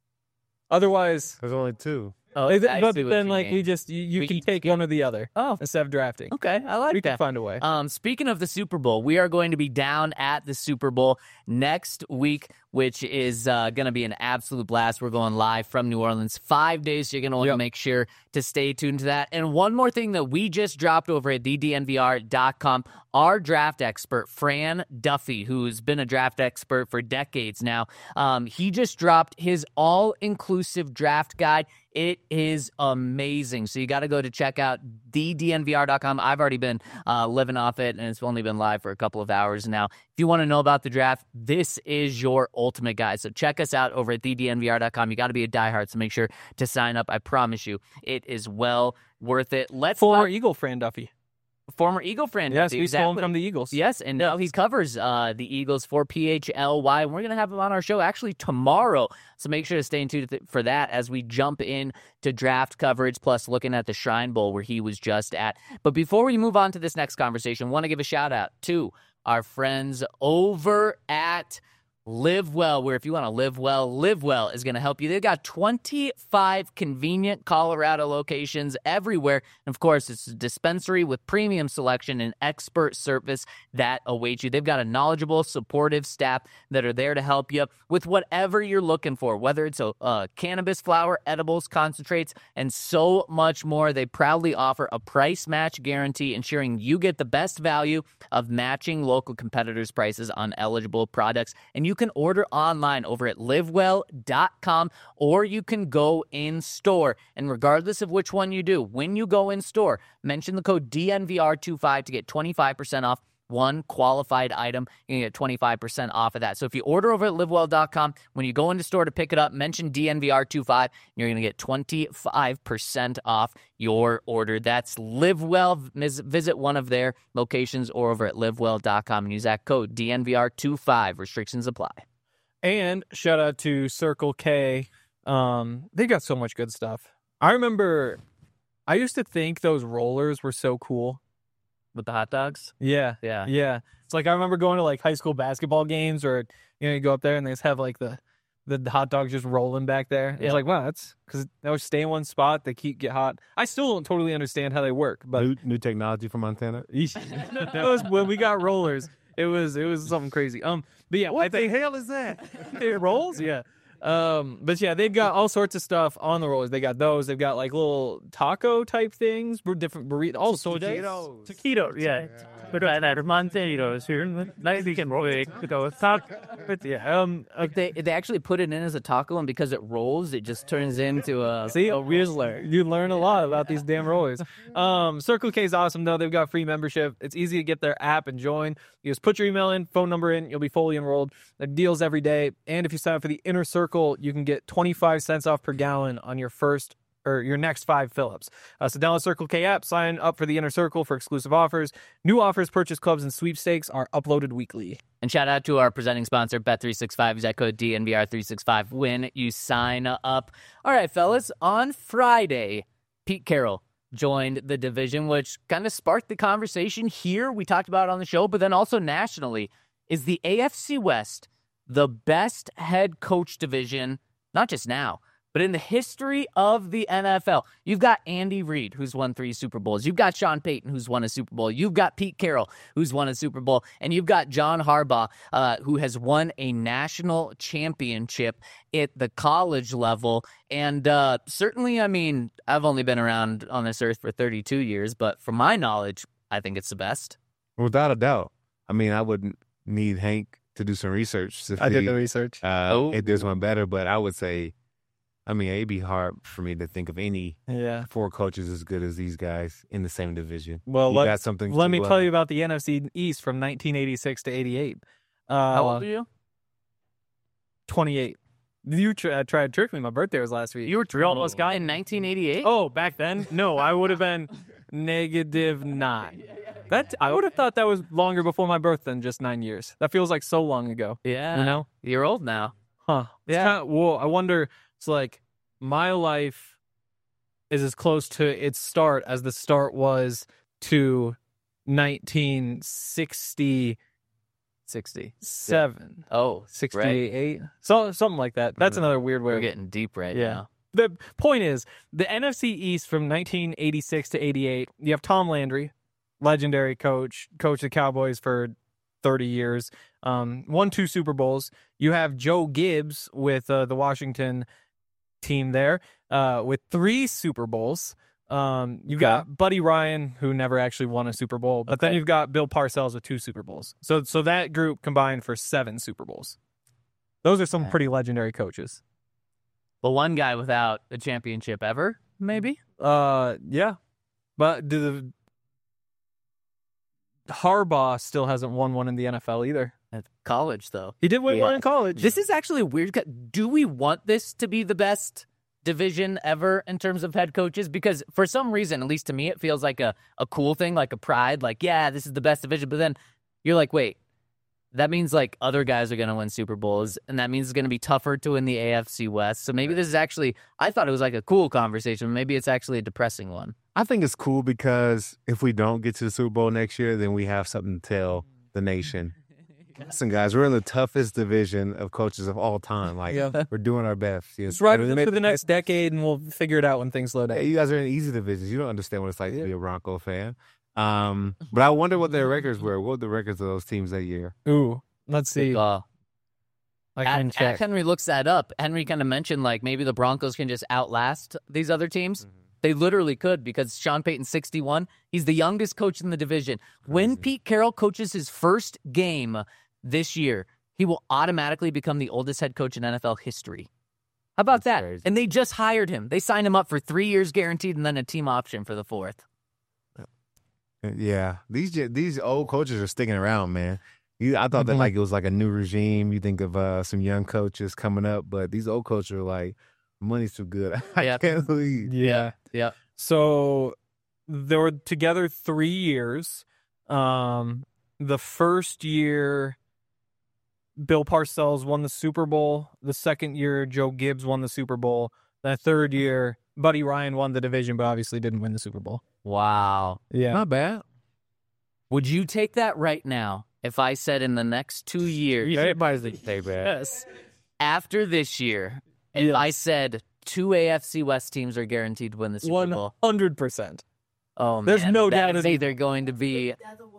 Otherwise, There's only two. Oh, like, I but see what then you like mean. we just you, you We can each take one or the other Oh, instead of drafting. okay. I like We that. can find a way. Um, speaking of the Super Bowl, we are going to be down at the Super Bowl next week, which is uh, going to be an absolute blast. We're going live from New Orleans five days, so you're going to want to Yep. make sure to stay tuned to that. And one more thing that we just dropped over at the D N V R dot com, our draft expert, Fran Duffy, who's been a draft expert for decades now, um, he just dropped his all-inclusive draft guide. It is amazing. So you got to go to check out the D N V R dot com. I've already been uh, living off it, and it's only been live for a couple of hours now. If you want to know about the draft, this is your ultimate guide. So check us out over at the D N V R dot com. You got to be a diehard, so make sure to sign up. I promise you, it is well worth it. Let's Former talk- Eagle Fran Duffy. former Eagle friend. Yes, Duffy, we stole him exactly. from the Eagles. Yes, and now he covers uh, the Eagles for P H L Y. And we're going to have him on our show actually tomorrow. So make sure to stay tuned for that as we jump in to draft coverage, plus looking at the Shrine Bowl where he was just at. But before we move on to this next conversation, I want to give a shout out to our friends over at Live Well, where if you want to live well, Live Well is going to help you. They've got twenty-five convenient Colorado locations everywhere. And of course, it's a dispensary with premium selection and expert service that awaits you. They've got a knowledgeable, supportive staff that are there to help you with whatever you're looking for, whether it's a uh, cannabis flower, edibles, concentrates, and so much more. They proudly offer a price match guarantee, ensuring you get the best value of matching local competitors' prices on eligible products. And you can order online over at live well dot com, or you can go in store. And regardless of which one you do, when you go in store, mention the code D N V R twenty-five to get twenty-five percent off one qualified item. You can get twenty-five percent off of that. So if you order over at live well dot com, when you go into store to pick it up, mention D N V R twenty-five, and you're going to get twenty-five percent off your order. That's LiveWell. Visit one of their locations or over at live well dot com and use that code D N V R twenty-five. Restrictions apply. And shout out to Circle K. Um, they got so much good stuff. I remember I used to think those rollers were so cool. With the hot dogs? Yeah. Yeah. Yeah. It's like I remember going to like high school basketball games, or you know, you go up there and they just have like the the hot dogs just rolling back there. Yeah. It's like, wow, that's because they always stay in one spot. They keep get hot. I still don't totally understand how they work, but New, new technology from Montana. that was when we got rollers. It was it was something crazy. Um, but yeah, what the hell is that? it rolls? Yeah. Um, but yeah, they've got all sorts of stuff on the rollers. They got those. They've got like little taco type things, bur- different burritos, all sorts. Taquitos. Taquitos, yeah. But I had Monteros here. Now we can roll it. Go talk. But yeah, um, uh, Like they, they actually put it in as a taco, and because it rolls, it just turns into a... see, a Rizzler. You learn a lot about these damn rollers. Um, Circle K is awesome though. They've got free membership. It's easy to get their app and join. You just put your email in, phone number in, you'll be fully enrolled. There are deals every day, and if you sign up for the Inner Circle, you can get twenty-five cents off per gallon on your first or your next five fill-ups. Uh, so download Circle K app, sign up for the Inner Circle for exclusive offers. New offers, purchase clubs, and sweepstakes are uploaded weekly. And shout out to our presenting sponsor, Bet three sixty-five. Use that code D N V R three sixty-five when you sign up. All right, fellas, on Friday, Pete Carroll joined the division, which kind of sparked the conversation here. We talked about it on the show, but then also nationally. Is the A F C West the best head coach division, not just now, but in the history of the N F L? You've got Andy Reid, who's won three Super Bowls. You've got Sean Payton, who's won a Super Bowl. You've got Pete Carroll, who's won a Super Bowl. And you've got John Harbaugh, uh, who has won a national championship at the college level. And uh, certainly, I mean, I've only been around on this earth for thirty-two years, but from my knowledge, I think it's the best. Without a doubt. I mean, I wouldn't need Hank to do some research to I did see the research. uh, Oh. if there's one better, but I would say I mean, it'd be hard for me to think of any Yeah. four coaches as good as these guys in the same division. Well, you let, got something. let to, me uh, tell you about the N F C East from nineteen eighty-six to eighty-eight. Uh, How old are you? twenty-eight. You tr- uh, tried to trick me. My birthday was last week. You were three almost guy in nineteen eighty-eight. Oh, back then? No, I would have been negative nine. That I would have thought that was longer before my birth than just nine years. That feels like so long ago. yeah. You know? You're old now. Huh. It's Yeah. kinda- well, I wonder, it's like my life is as close to its start as the start was to nineteen sixty-seven. sixty. Oh, sixty-eight. So, something like that. That's another weird way We're of getting deep right Yeah. now. The point is, the N F C East from nineteen eighty-six to eighty-eight, you have Tom Landry, legendary coach, coached the Cowboys for thirty years, um, won two Super Bowls. You have Joe Gibbs with uh, the Washington team there uh, with three Super Bowls. Um, you've got Buddy Ryan, who never actually won a Super Bowl, but then Okay. you've got Bill Parcells with two Super Bowls. So, so that group combined for seven Super Bowls. Those are some Okay. pretty legendary coaches. The one guy without a championship ever, maybe? Uh, yeah, but do the Harbaugh still hasn't won one in the N F L either. At college, though. He did win Yeah. one in college. This is actually a weird. co- Do we want this to be the best division ever in terms of head coaches? Because for some reason, at least to me, it feels like a, a cool thing, like a pride. Like, yeah, this is the best division. But then you're like, wait, that means like other guys are going to win Super Bowls, and that means it's going to be tougher to win the A F C West. So maybe this is actually, I thought it was like a cool conversation. Maybe it's actually a depressing one. I think it's cool because if we don't get to the Super Bowl next year, then we have something to tell the nation. Listen, guys, we're in the toughest division of coaches of all time. Like, Yeah. we're doing our best. It's right for the next decade, and we'll figure it out when things slow down. Hey, you guys are in easy divisions. You don't understand what it's like to be a Bronco fan. Um, but I wonder what their records were. What were the records of those teams that year? Ooh, let's see. Uh, I can At, check. at Henry looks that up. Henry kind of mentioned like maybe the Broncos can just outlast these other teams. They literally could because Sean Payton's sixty-one. He's the youngest coach in the division. When Pete Carroll coaches his first game this year, he will automatically become the oldest head coach in N F L history. How about That's that? crazy. And they just hired him. They signed him up for three years guaranteed and then a team option for the fourth. Yeah, these ge- these old coaches are sticking around, man. You, I thought that Mhm. like it was like a new regime. You think of uh, some young coaches coming up, but these old coaches are like, money's too good. I Yeah. can't believe. Yeah. Yeah. So they were together three years. Um, the first year, Bill Parcells won the Super Bowl. The second year, Joe Gibbs won the Super Bowl. The third year, Buddy Ryan won the division, but obviously didn't win the Super Bowl. Wow. Yeah. Not bad. Would you take that right now if I said in the next two years, Everybody's say bad. Yes. after this year, if Yes. I said two A F C West teams are guaranteed to win the Super One Bowl? hundred percent. Oh, There's man, no that doubt is in- either going to be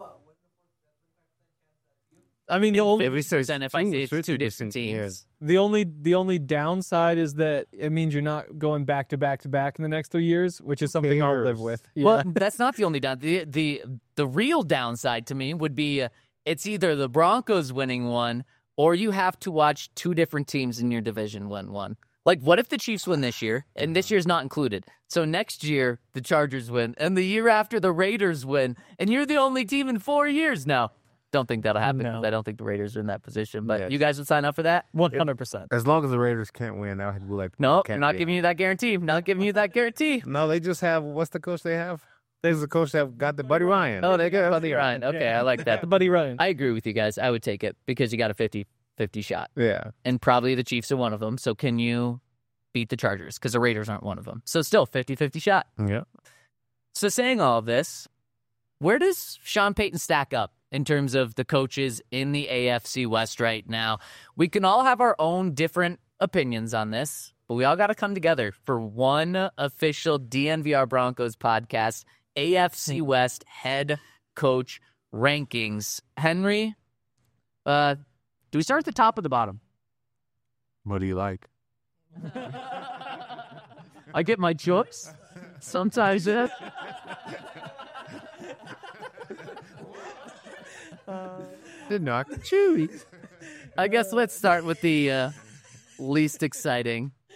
I mean, the only If we say then if I say it's two different teams. the only the only downside is that it means you're not going back to back to back in the next three years, which is something I'll live cares? with. Yeah. Well, that's not the only down. The the the real downside to me would be uh, it's either the Broncos winning one or you have to watch two different teams in your division win one. Like, what if the Chiefs win this year, and this year's not included? So next year, the Chargers win, and the year after, the Raiders win, and you're the only team in four years now. Don't think that'll happen. No. 'Cause I don't think the Raiders are in that position. But Yes. you guys would sign up for that? One hundred percent. As long as the Raiders can't win, I would be like, No, can't I'm not be. giving you that guarantee. I'm not giving you that guarantee. No, they just have. What's the coach they have? There's the coach that got the Buddy Ryan. Oh, they got Buddy Ryan. Okay, I like that. The Buddy Ryan. I agree with you guys. I would take it because you got a fifty-fifty shot. Yeah. And probably the Chiefs are one of them. So can you beat the Chargers? Because the Raiders aren't one of them. So still fifty-fifty shot. Yeah. So saying all of this, where does Sean Payton stack up in terms of the coaches in the A F C West right now? We can all have our own different opinions on this, but we all got to come together for one official D N V R Broncos podcast, A F C West head coach rankings. Henry, uh, do we start at the top or the bottom? What do you like? I get my choice. Sometimes it. Did not chewy. I guess let's start with the uh, least exciting.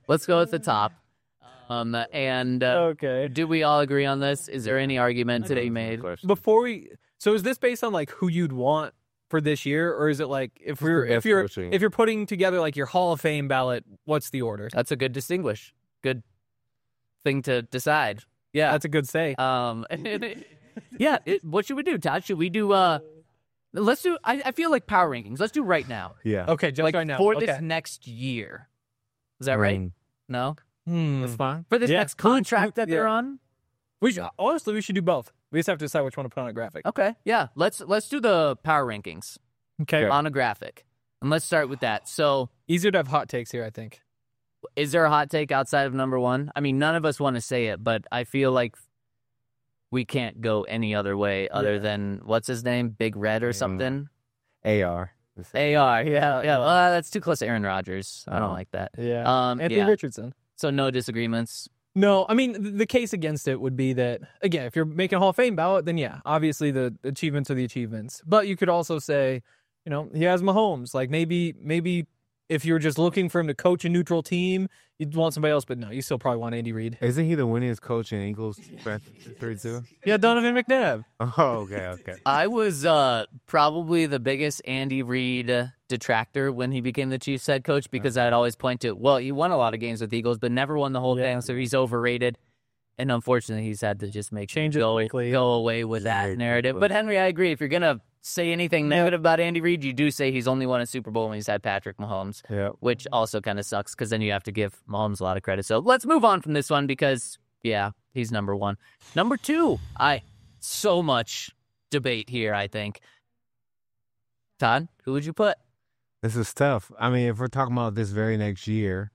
Let's go at the top. Um, and uh, Okay. do we all agree on this? Is there any argument to be made? Before we, so is this based on like who you'd want for this year, or is it like if we're the if you're best coaching. if you're putting together like your Hall of Fame ballot, what's the order? That's a good distinguish. Good thing to decide. Yeah. That's a good say. Um, yeah. It, what should we do, Todd? Should we do? Uh, let's do. I, I feel like power rankings. Let's do right now. Yeah. Okay, just Like right now. for okay. this next year. Is that right? Mm, No. Hmm. That's fine. For this Yeah. next contract that they're Yeah. on. We should, honestly, we should do both. We just have to decide which one to put on a graphic. Okay. Yeah. Let's let's do the power rankings Okay. on a graphic, and let's start with that. So, Easier to have hot takes here, I think. is there a hot take outside of number one? I mean, none of us want to say it, but I feel like we can't go any other way other Yeah. than what's his name, Big Red or Mm. something. A R. A R. Yeah. Yeah. Well, that's too close to Aaron Rodgers. I don't Oh. like that. Yeah. Um. Anthony yeah. Richardson. So no disagreements. No, I mean, th- the case against it would be that, again, if you're making a Hall of Fame ballot, then yeah, obviously the achievements are the achievements. But you could also say, you know, he has Mahomes. Like maybe, maybe if you're just looking for him to coach a neutral team, you'd want somebody else. But no, you still probably want Andy Reid. Isn't he the winningest coach in Eagles three two? Yeah, Donovan McNabb. Oh, okay, okay. I was uh, probably the biggest Andy Reid uh, detractor when he became the Chiefs head coach because I'd always point to, well, he won a lot of games with the Eagles, but never won the whole thing, so he's overrated. And unfortunately, he's had to just make Change it go, quickly. go away with that narrative. But Henry, I agree. If you're gonna say anything negative about Andy Reid, you do say he's only won a Super Bowl when he's had Patrick Mahomes, Yeah. which also kind of sucks because then you have to give Mahomes a lot of credit. So let's move on from this one because, yeah, he's number one. Number two, I so much debate here, I think. Todd, who would you put? This is tough. I mean, if we're talking about this very next year,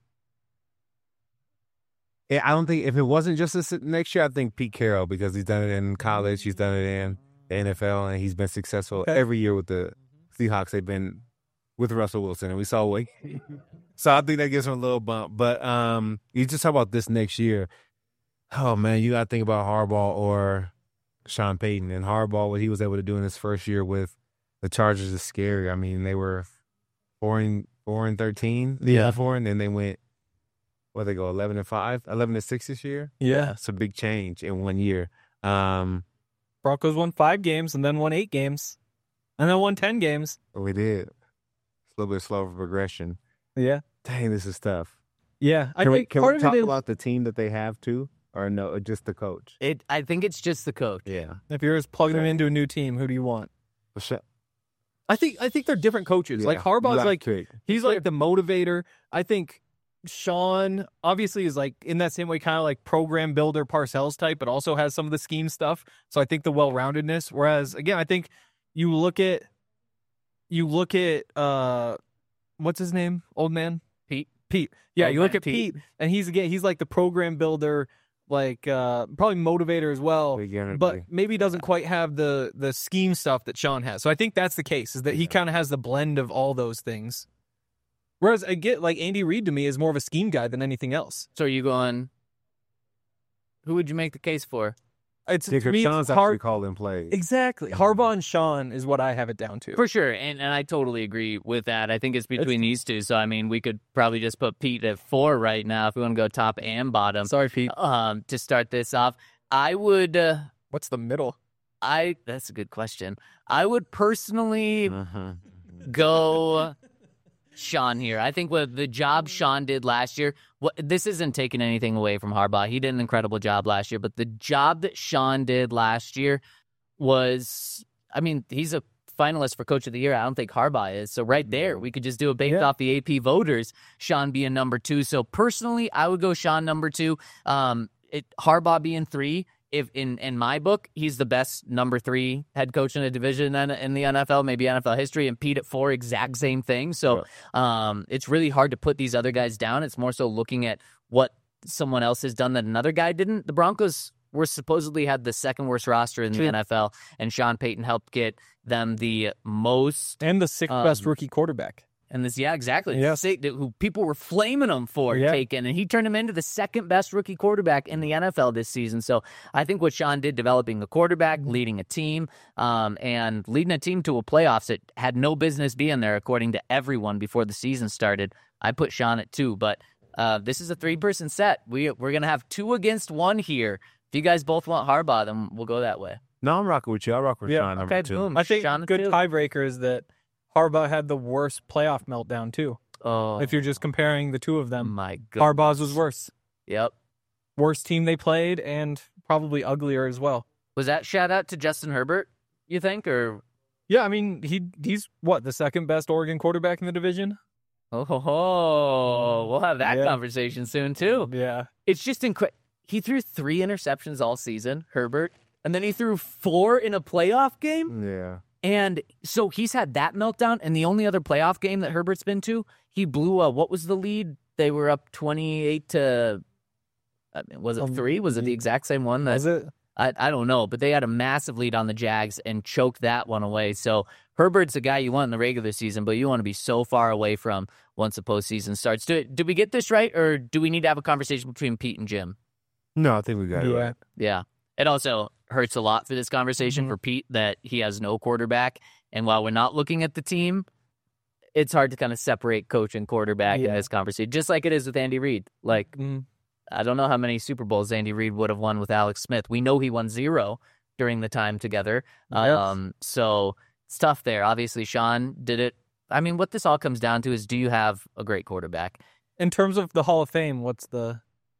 eh, I don't think if it wasn't just this next year, I think Pete Carroll because he's done it in college, he's done it in the N F L, and he's been successful Okay. every year with the Seahawks. They've been with Russell Wilson, and we saw what. So I think that gives him a little bump. But um, you just talk about this next year. Oh man, you got to think about Harbaugh or Sean Payton, and Harbaugh what he was able to do in his first year with the Chargers is scary. I mean, they were four and four and thirteen, Yeah. four, and then they went. What they go eleven and five, eleven and six this year. Yeah. It's a big change in one year. Um, Broncos won five games and then won eight games and then won ten games. we did. It's a little bit slower progression. Yeah. Dang, this is tough. Yeah. I Can we, think can part we of talk it is, about the team that they have too, or no, or just the coach? It. I think it's just the coach. Yeah, if you're just plugging them into a new team, who do you want? for sure. I think I think they're different coaches. Yeah, Like you Harbaugh's gotta like pick. he's like the motivator. I think Sean obviously is like in that same way, kind of like program builder Parcells type, but also has some of the scheme stuff. So I think the well-roundedness. Whereas again, I think you look at you look at uh what's his name? Old man? Pete. Pete. Yeah, Old you look man at Pete. Pete and he's again he's like the program builder, like uh probably motivator as well. Big energy. But maybe doesn't quite have the the scheme stuff that Sean has. So I think that's the case, is that he kind of has the blend of all those things. Whereas I get like Andy Reid to me is more of a scheme guy than anything else. So are you going? Who would you make the case for? It's Yeah, to 'cause me, Sean's it's actually hard. calling plays. Exactly, Harbaugh and Sean is what I have it down to. For sure, and and I totally agree with that. I think it's between these two. So I mean, we could probably just put Pete at four right now if we want to go top and bottom. Sorry, Pete. Um, to start this off, I would. Uh, What's the middle? I. That's a good question. I would personally Uh-huh. go Sean here. I think what the job Sean did last year, what this isn't taking anything away from Harbaugh. He did an incredible job last year, but the job that Sean did last year was, I mean, he's a finalist for Coach of the Year. I don't think Harbaugh is. So right there, we could just do it based Yeah. off the A P voters, Sean being number two. So personally, I would go Sean number two. Um, it, Harbaugh being three. If in, in my book, he's the best number three head coach in a division in, in the N F L, maybe N F L history, and Pete at four, exact same thing. So um, it's really hard to put these other guys down. It's more so looking at what someone else has done that another guy didn't. The Broncos were supposedly had the second worst roster in the True. N F L, and Sean Payton helped get them the most. And the sixth Um, best rookie quarterback. And this, yeah, exactly. Yeah. Say- Who people were flaming him for Yeah. taking, and he turned him into the second best rookie quarterback in the N F L this season. So I think what Sean did, developing a quarterback, leading a team, um, and leading a team to a playoffs that had no business being there, according to everyone before the season started. I put Sean at two, but Uh, this is a three-person set. We, we're going to have two against one here. If you guys both want Harbaugh, then we'll go that way. No, I'm rocking with you. I'll rock with Yeah, Sean. Number okay, two. boom. I think Sean good too. tiebreaker is that Harbaugh had the worst playoff meltdown, too. Oh, If you're just comparing the two of them, my God. Harbaugh's was worse. Yep. Worst team they played and probably uglier as well. Was that shout out to Justin Herbert, you think? Or Yeah, I mean, he he's, what, the second best Oregon quarterback in the division? oh, ho, ho. We'll have that Yeah. conversation soon, too. Yeah. It's just incredible. He threw three interceptions all season, Herbert, and then he threw four in a playoff game. Yeah. And so he's had that meltdown, and the only other playoff game that Herbert's been to, he blew a, what was the lead? They were up twenty-eight to, I mean, was it Um, three? Was it the exact same one? That, Was it? I, I don't know, but they had a massive lead on the Jags and choked that one away. So Herbert's a guy you want in the regular season, but you want to be so far away from once the postseason starts. Do, did we get this right, or do we need to have a conversation between Pete and Jim? No, I think we got it. Yeah. Right. Yeah. It also hurts a lot for this conversation Mhm. for Pete that he has no quarterback. And while we're not looking at the team, it's hard to kind of separate coach and quarterback in Yeah. this conversation, just like it is with Andy Reid. Like, Mm. I don't know how many Super Bowls Andy Reid would have won with Alex Smith. We know he won zero during the time together. Yes. Um, so it's tough there. Obviously, Sean did it. I mean, what this all comes down to is, do you have a great quarterback? In terms of the Hall of Fame, what's the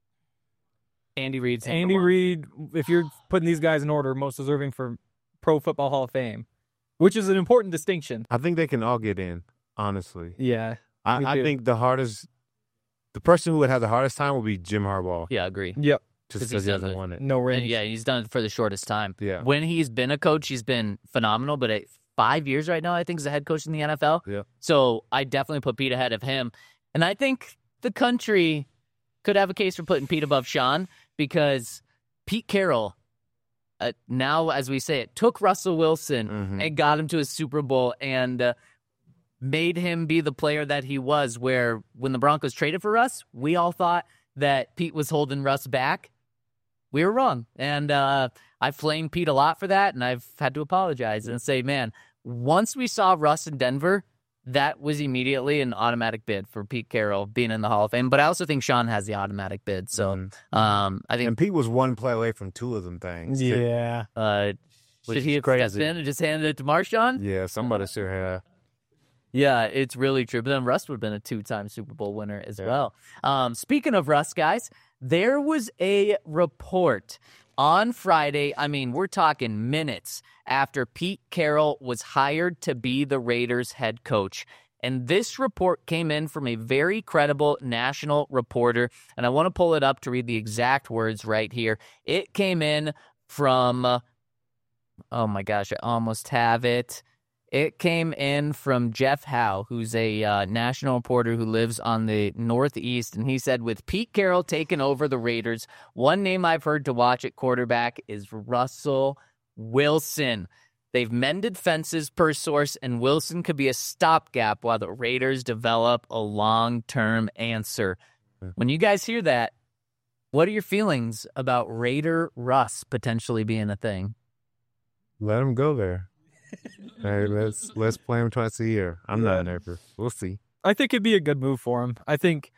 Andy Reid's number Andy one. Reid? If you're putting these guys in order, most deserving for Pro Football Hall of Fame, which is an important distinction. I think they can all get in, honestly. Yeah, me I, I too. think the hardest, the person who would have the hardest time would be Jim Harbaugh, Yeah, agree. yep, just 'Cause because he's he done hasn't it. won it. no And ring. yeah, he's done it for the shortest time. Yeah. When he's been a coach, he's been phenomenal, but at five years right now, I think, as a head coach in the N F L. Yeah. So I definitely put Pete ahead of him. And I think the country could have a case for putting Pete above Sean, because Pete Carroll, uh, now, as we say it, took Russell Wilson Mhm. and got him to a Super Bowl and uh, made him be the player that he was, where when the Broncos traded for Russ, we all thought that Pete was holding Russ back. We were wrong. And uh, I flamed Pete a lot for that, and I've had to apologize and say, man, once we saw Russ in Denver, that was immediately an automatic bid for Pete Carroll being in the Hall of Fame. But I also think Sean has the automatic bid. So Mhm. um, I think And Pete was one play away from two of them things. too. Yeah, uh, Which should he is have stepped crazy. in and just handed it to Marshawn? Yeah, somebody sure have. Yeah, it's really true. But then Russ would have been a two-time Super Bowl winner as Yeah. well. Um, speaking of Russ, guys, there was a report on Friday. I mean, we're talking minutes after Pete Carroll was hired to be the Raiders head coach. And this report came in from a very credible national reporter. And I want to pull it up to read the exact words right here. It came in from, uh, oh my gosh, I almost have it. It came in from Jeff Howe, who's a uh, national reporter who lives on the Northeast, and he said, with Pete Carroll taking over the Raiders, one name I've heard to watch at quarterback is Russell Wilson. They've mended fences per source, and Wilson could be a stopgap while the Raiders develop a long-term answer. When you guys hear that, what are your feelings about Raider Russ potentially being a thing? Let him go there. Hey, let's let's play him twice a year. I'm not an nervous. We'll see. I think it'd be a good move for him. I think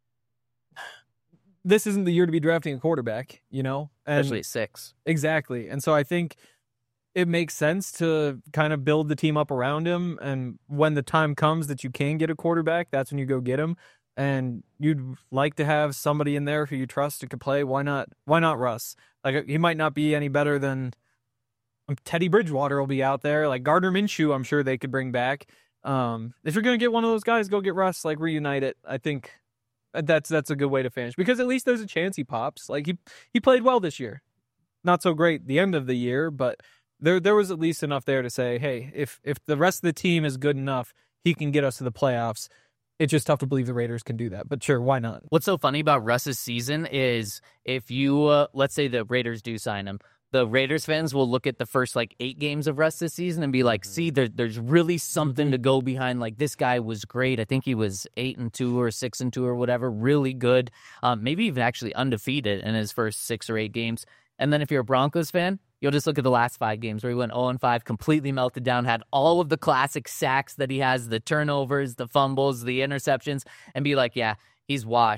this isn't the year to be drafting a quarterback, you know, and Especially at six. exactly. And so I think it makes sense to kind of build the team up around him. And when the time comes that you can get a quarterback, that's when you go get him. And you'd like to have somebody in there who you trust who could play. Why not? Why not Russ? Like, he might not be any better than Teddy Bridgewater will be out there. Like Gardner Minshew, I'm sure they could bring back. Um, if you're going to get one of those guys, go get Russ, like reunite it. I think that's that's a good way to finish, because at least there's a chance he pops. Like he he played well this year. Not so great the end of the year, but there there was at least enough there to say, hey, if if the rest of the team is good enough, he can get us to the playoffs. It's just tough to believe the Raiders can do that, but sure, why not? What's so funny about Russ's season is if you, uh, let's say the Raiders do sign him, the Raiders fans will look at the first like eight games of Russ this season and be like, see, there, there's really something to go behind. Like, this guy was great. I think he was eight and two or six and two or whatever, really good. Um, maybe even actually undefeated in his first six or eight games. And then if you're a Broncos fan, you'll just look at the last five games where he went oh and five, completely melted down, had all of the classic sacks that he has, the turnovers, the fumbles, the interceptions, and be like, yeah, he's washed.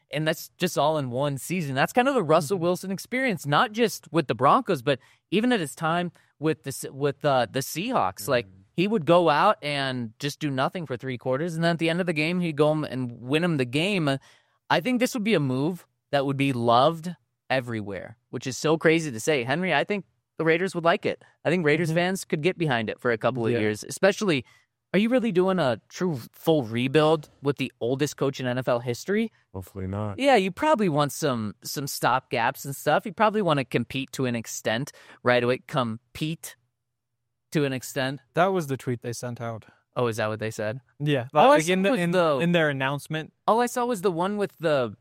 and that's just all in one season. That's kind of the Russell Wilson experience, not just with the Broncos, but even at his time with the with uh, the Seahawks. Like, he would go out and just do nothing for three quarters, and then at the end of the game, he'd go and win him the game. I think this would be a move that would be loved everywhere, which is so crazy to say. Henry, I think the Raiders would like it. I think Raiders mm-hmm. fans could get behind it for a couple of yeah. years, especially. Are you really doing a true full rebuild with the oldest coach in N F L history? Hopefully not. Yeah, you probably want some some stop gaps and stuff. You probably want to compete to an extent right away. Compete to an extent. That was the tweet they sent out. Oh, is that what they said? Yeah. All like in, the, in, the, in their announcement. All I saw was the one with the...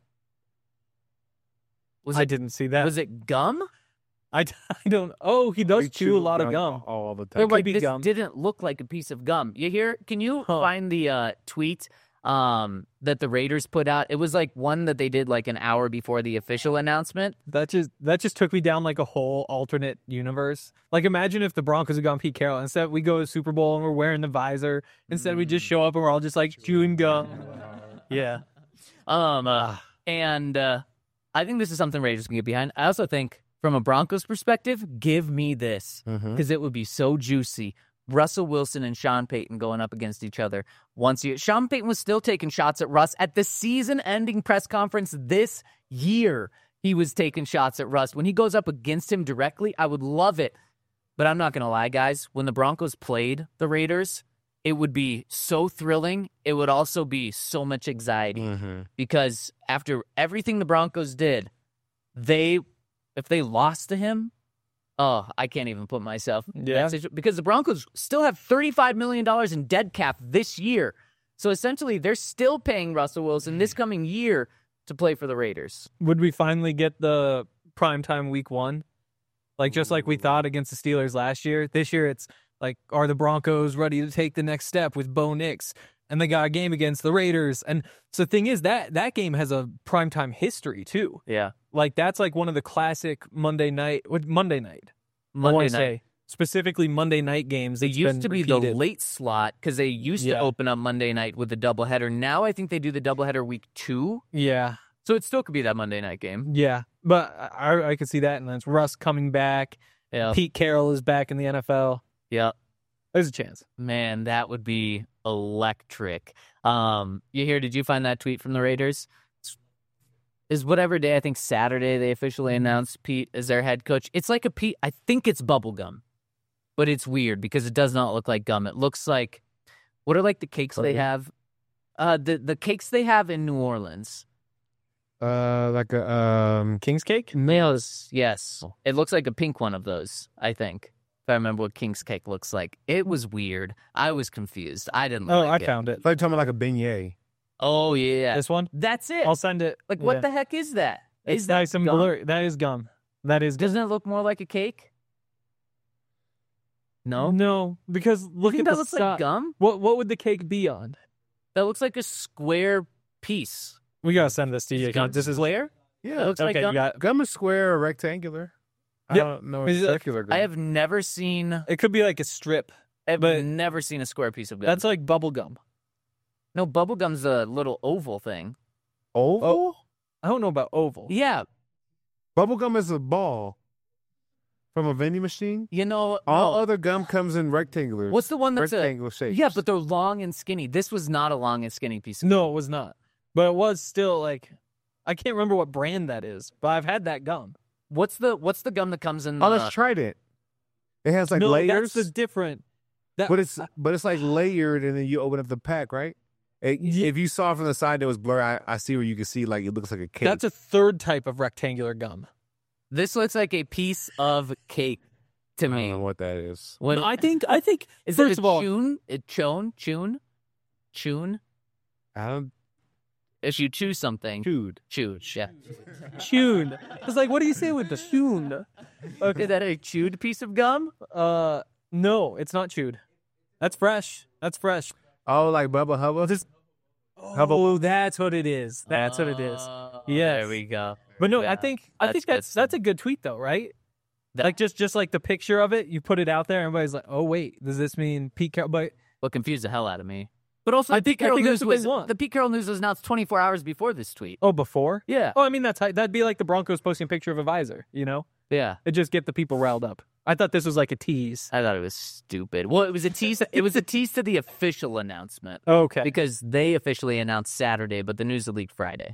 Was I it, didn't see that. Was it gum? I, I don't. Oh, he does chew, chew a lot of gum all the time. Like, this gum. Didn't look like a piece of gum. You hear? Can you huh. find the uh, tweet um, that the Raiders put out? It was like one that they did like an hour before the official announcement. That just that just took me down like a whole alternate universe. Like, imagine if the Broncos had gone Pete Carroll. Instead, we go to Super Bowl and we're wearing the visor. Instead, we just show up and we're all just like chewing gum. Yeah. Um. Uh, and uh, I think this is something Raiders can get behind. I also think, from a Broncos perspective, give me this, because mm-hmm. it would be so juicy. Russell Wilson and Sean Payton going up against each other. Once you, Sean Payton was still taking shots at Russ at the season-ending press conference this year. He was taking shots at Russ. When he goes up against him directly, I would love it. But I'm not going to lie, guys. When the Broncos played the Raiders, it would be so thrilling. It would also be so much anxiety. Mm-hmm. Because after everything the Broncos did, they... If they lost to him, oh, I can't even put myself in yeah. that situation. Because the Broncos still have thirty-five million dollars in dead cap this year. So essentially, they're still paying Russell Wilson this coming year to play for the Raiders. Would we finally get the primetime week one? Like, just like we thought against the Steelers last year. This year, it's like, are the Broncos ready to take the next step with Bo Nix? And they got a game against the Raiders. And so the thing is, that that game has a primetime history, too. Yeah. Like, that's like one of the classic Monday night, what, Monday night. Monday I want night. to say, specifically Monday night games. They used to be repeated. the late slot, because they used yeah. to open up Monday night with the doubleheader. Now I think they do the doubleheader week two. Yeah. So it still could be that Monday night game. Yeah. But I, I could see that. And then it's Russ coming back. Yeah. Pete Carroll is back in the N F L. Yeah. There's a chance. Man, that would be electric. Um, you hear, did you find that tweet from the Raiders? Is whatever day, I think Saturday, they officially announced Pete as their head coach. It's like a Pete, I think it's bubble gum, but it's weird because it does not look like gum. It looks like, what are like the cakes okay. they have? Uh, the, the cakes they have in New Orleans. Uh, like a um King's cake? Males, yes. Oh. It looks like a pink one of those, I think. If I remember what King's cake looks like. It was weird. I was confused. I didn't oh, like I it. found it. It's like talking about like a beignet. Oh, yeah. This one? That's it. I'll send it. Like, what yeah. the heck is that? It's is that nice and gum? blurry. That is gum. That is gum. Doesn't it look more like a cake? No? No, because look you think at that the looks si- like gum? What What would the cake be on? That looks like a square piece. We gotta send this to you. Gum This is square? Yeah. It looks okay, like gum. You got... Gum is square or rectangular. I Yep. don't know. Is It's it- circular gum. I have never seen... It could be like a strip. I've but never seen a square piece of gum. That's like bubble gum. No, bubble gum's a little oval thing. oval. Oh. I don't know about oval. Yeah. Bubble gum is a ball from a vending machine. You know... All no. other gum comes in rectangular. What's the one that's a... rectangular shape? Yeah, but they're long and skinny. This was not a long and skinny piece of gum. No, it was not. But it was still like, I can't remember what brand that is, but I've had that gum. What's the What's the gum that comes in... Oh, the... let's try it. It has like no, layers. that's a different. That, But it's but it's like layered, and then you open up the pack, right? It, Yeah. If you saw it from the side that was blurry, I, I see where you can see like it looks like a cake. That's a third type of rectangular gum. This looks like a piece of cake to I don't me. know what that is. When, No, I think I think is first it a of all, chun? It chun? Chun? Chun? I don't If you chew something, chewed. chew. Yeah. chewed. It's like, what do you say with the chewed? Okay, is that a chewed piece of gum? Uh, no, it's not chewed. That's fresh. That's fresh. Oh, like Bubba Hubba. This. Oh, that's what it is. That's what it is. Uh, Yes. There we go. But no, Yeah, I think I that's think good that's stuff. that's a good tweet though, right? That- like just just like the picture of it, you put it out there, everybody's like, "Oh wait, does this mean Pete Carroll?" But What confused the hell out of me. But also, I the think- Pete I Carroll think news that's what they was want. the Pete Carroll news was announced twenty-four hours before this tweet. Oh, before? Yeah, Oh, I mean, that's that'd be like the Broncos posting a picture of a visor, you know? yeah. It just get the people riled up. I thought this was like a tease. I thought it was stupid. Well, it was a tease. It was a tease to the official announcement Okay. because they officially announced Saturday, but the news leaked Friday.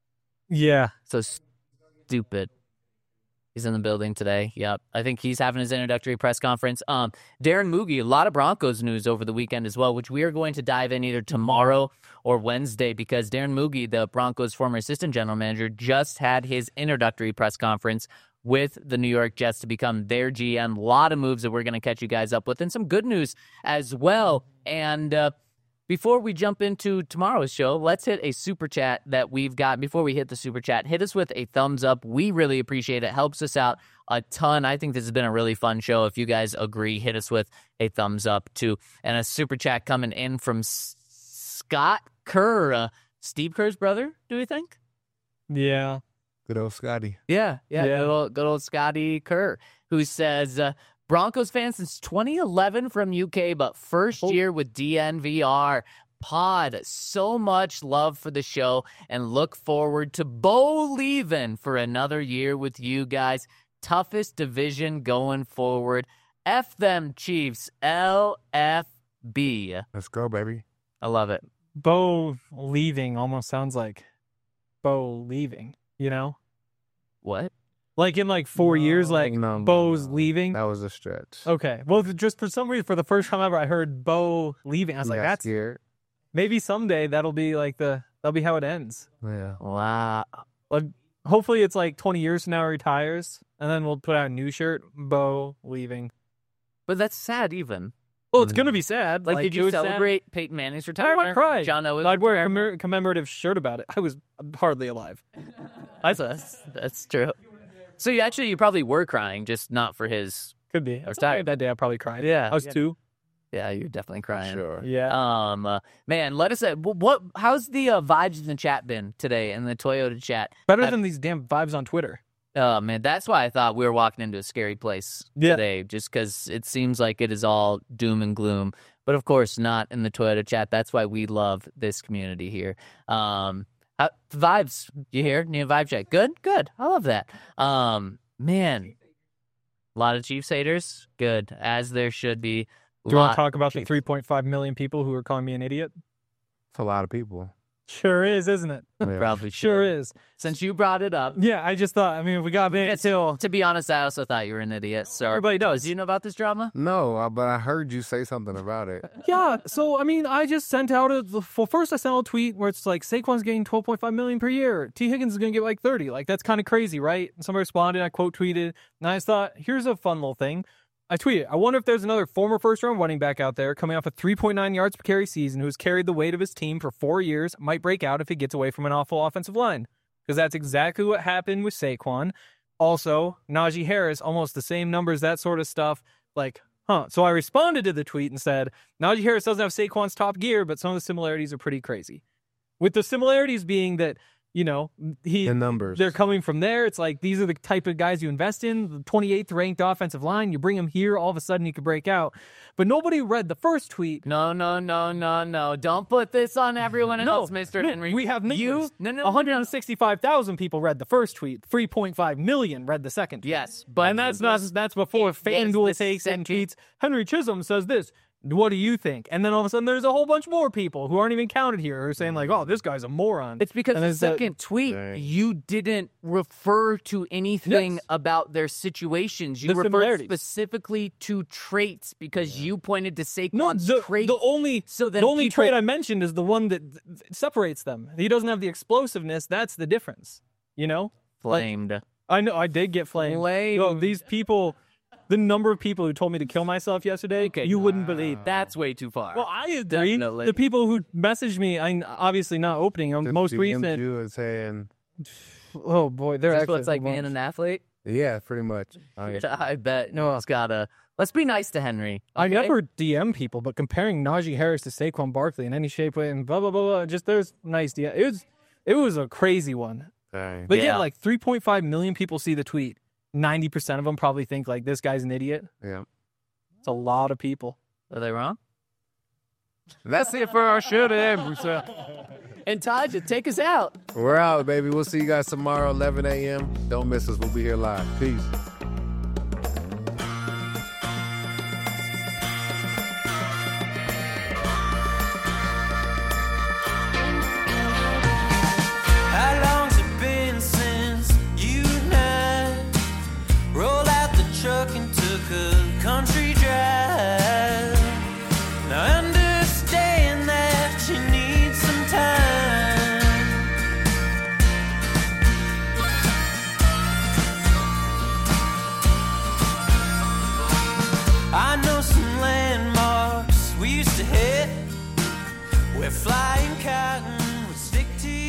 Yeah. So stupid. He's in the building today. Yep. I think he's having his introductory press conference. Um, Darren Moogie, a lot of Broncos news over the weekend as well, which we are going to dive in either tomorrow or Wednesday because Darren Moogie, the Broncos' former assistant general manager, just had his introductory press conference with the New York Jets to become their G M. A lot of moves that we're going to catch you guys up with and some good news as well. And uh, before we jump into tomorrow's show, let's hit a super chat that we've got. Before we hit the super chat, hit us with a thumbs up. We really appreciate it. Helps us out a ton. I think this has been a really fun show. If you guys agree, hit us with a thumbs up too. And a super chat coming in from S- Scott Kerr, uh, Steve Kerr's brother, do we think? Yeah. Good old Scotty. Yeah, yeah, Yeah. Good, old, good old Scotty Kerr, who says, uh, Broncos fan since twenty eleven from U K, but first Oh. year with D N V R. Pod, so much love for the show and look forward to Bo leaving for another year with you guys. Toughest division going forward. F them Chiefs, L F B. Let's go, baby. I love it. Bo leaving almost sounds like Bo leaving, you know? What? Like in like four years, like no, no, Bo's no. leaving. That was a stretch. Okay. Well, th- just for some reason, for the first time ever, I heard Bo leaving. I was like, Yeah, that's scared. maybe someday that'll be like the, that'll be how it ends. Yeah. Wow. Like, hopefully it's like twenty years from now he retires, and then we'll put out a new shirt, Bo leaving. But that's sad even. Well, it's going to be sad. Like, did it you was sad. celebrate Peyton Manning's I retirement? might cry. John Owen. I'd wear a commem- commemorative shirt about it. I was hardly alive. That's, that's, that's true. So you actually, you probably were crying, just not for his. Could be. I was tired. tired that day. I probably cried. Yeah. I was two. Yeah, you're definitely crying. Sure. Yeah. Um, uh, man, let us. Uh, wh- what? How's the uh, vibes in the chat been today in the Toyota chat? Better uh, than these damn vibes on Twitter. Oh man, that's why I thought we were walking into a scary place Yeah. today, just because it seems like it is all doom and gloom. But of course, not in the Toyota chat. That's why we love this community here. Um, how, vibes, you hear? Need a vibe check? Good, good. I love that. Um, man, a lot of Chiefs haters. Good, as there should be. Do you want Lot- to talk about the three point five million people who are calling me an idiot? It's a lot of people. Sure is, isn't it? Yeah. Probably Sure should. is. Since you brought it up. Yeah, I just thought, I mean, we got Yeah, big. to, to be honest, I also thought you were an idiot. So Everybody does. Do you know about this drama? No, uh, but I heard you say something about it. Yeah, so, I mean, I just sent out a, well, first I sent out a tweet where it's like, Saquon's getting twelve point five million per year. T. Higgins is going to get like thirty. Like, that's kind of crazy, right? And somebody responded, I quote tweeted, and I just thought, here's a fun little thing. I tweeted, I wonder if there's another former first-round running back out there coming off a three point nine yards per carry season who's carried the weight of his team for four years, might break out if he gets away from an awful offensive line. Because that's exactly what happened with Saquon. Also, Najee Harris, almost the same numbers, that sort of stuff. Like, huh. So I responded to the tweet and said, Najee Harris doesn't have Saquon's top gear, but some of the similarities are pretty crazy. With the similarities being that, you know, he The numbers. they're coming from there. It's like these are the type of guys you invest in. The twenty-eighth ranked offensive line. You bring him here, all of a sudden he could break out. But nobody read the first tweet. No, no, no, no, no. Don't put this on everyone No, else, Mister no, Henry. we have numbers. You? No, no, one hundred sixty-five thousand people read the first tweet. three point five million read the second tweet. Yes, but And that's not that's before Yes, FanDuel the takes and second- tweets. Henry Chisholm says this. What do you think? And then all of a sudden there's a whole bunch more people who aren't even counted here who are saying like, oh, this guy's a moron. It's because And the it's that- second tweet, Dang. you didn't refer to anything Yes. about their situations. You The referred similarities. specifically to traits because you pointed to no, Saquon's the, trait. the only so that the only people- trait I mentioned is the one that th- th- separates them. He doesn't have the explosiveness. That's the difference. You know? flamed. I know I did get flamed. Flamed. Yo, these people, the number of people who told me to kill myself yesterday, Okay. you wouldn't believe. That's way too far. Well, I agree. Definitely. The people who messaged me, I obviously not opening them. Just Most D M'd recent. you and saying, Oh boy, they're That's actually what it's like the being most- an athlete. yeah, pretty much. Oh, yeah. I bet. No, it's gotta. Let's be nice to Henry. I okay? never D M people, but comparing Najee Harris to Saquon Barkley in any shape, way, and blah blah blah blah. Just there's nice D M. It was it was a crazy one. Dang. But yeah, Yeah. like three point five million people see the tweet. ninety percent of them probably think like this guy's an idiot. Yeah. It's a lot of people. Are they wrong? That's it for our show today. And Taja, take us out. We're out, baby. We'll see you guys tomorrow, eleven a.m. Don't miss us. We'll be here live. Peace. How long's it been since you and I rolled out the truck and took a country drive? Now I understand that you need some time. I know some landmarks we used to hit where flying cotton would stick to you.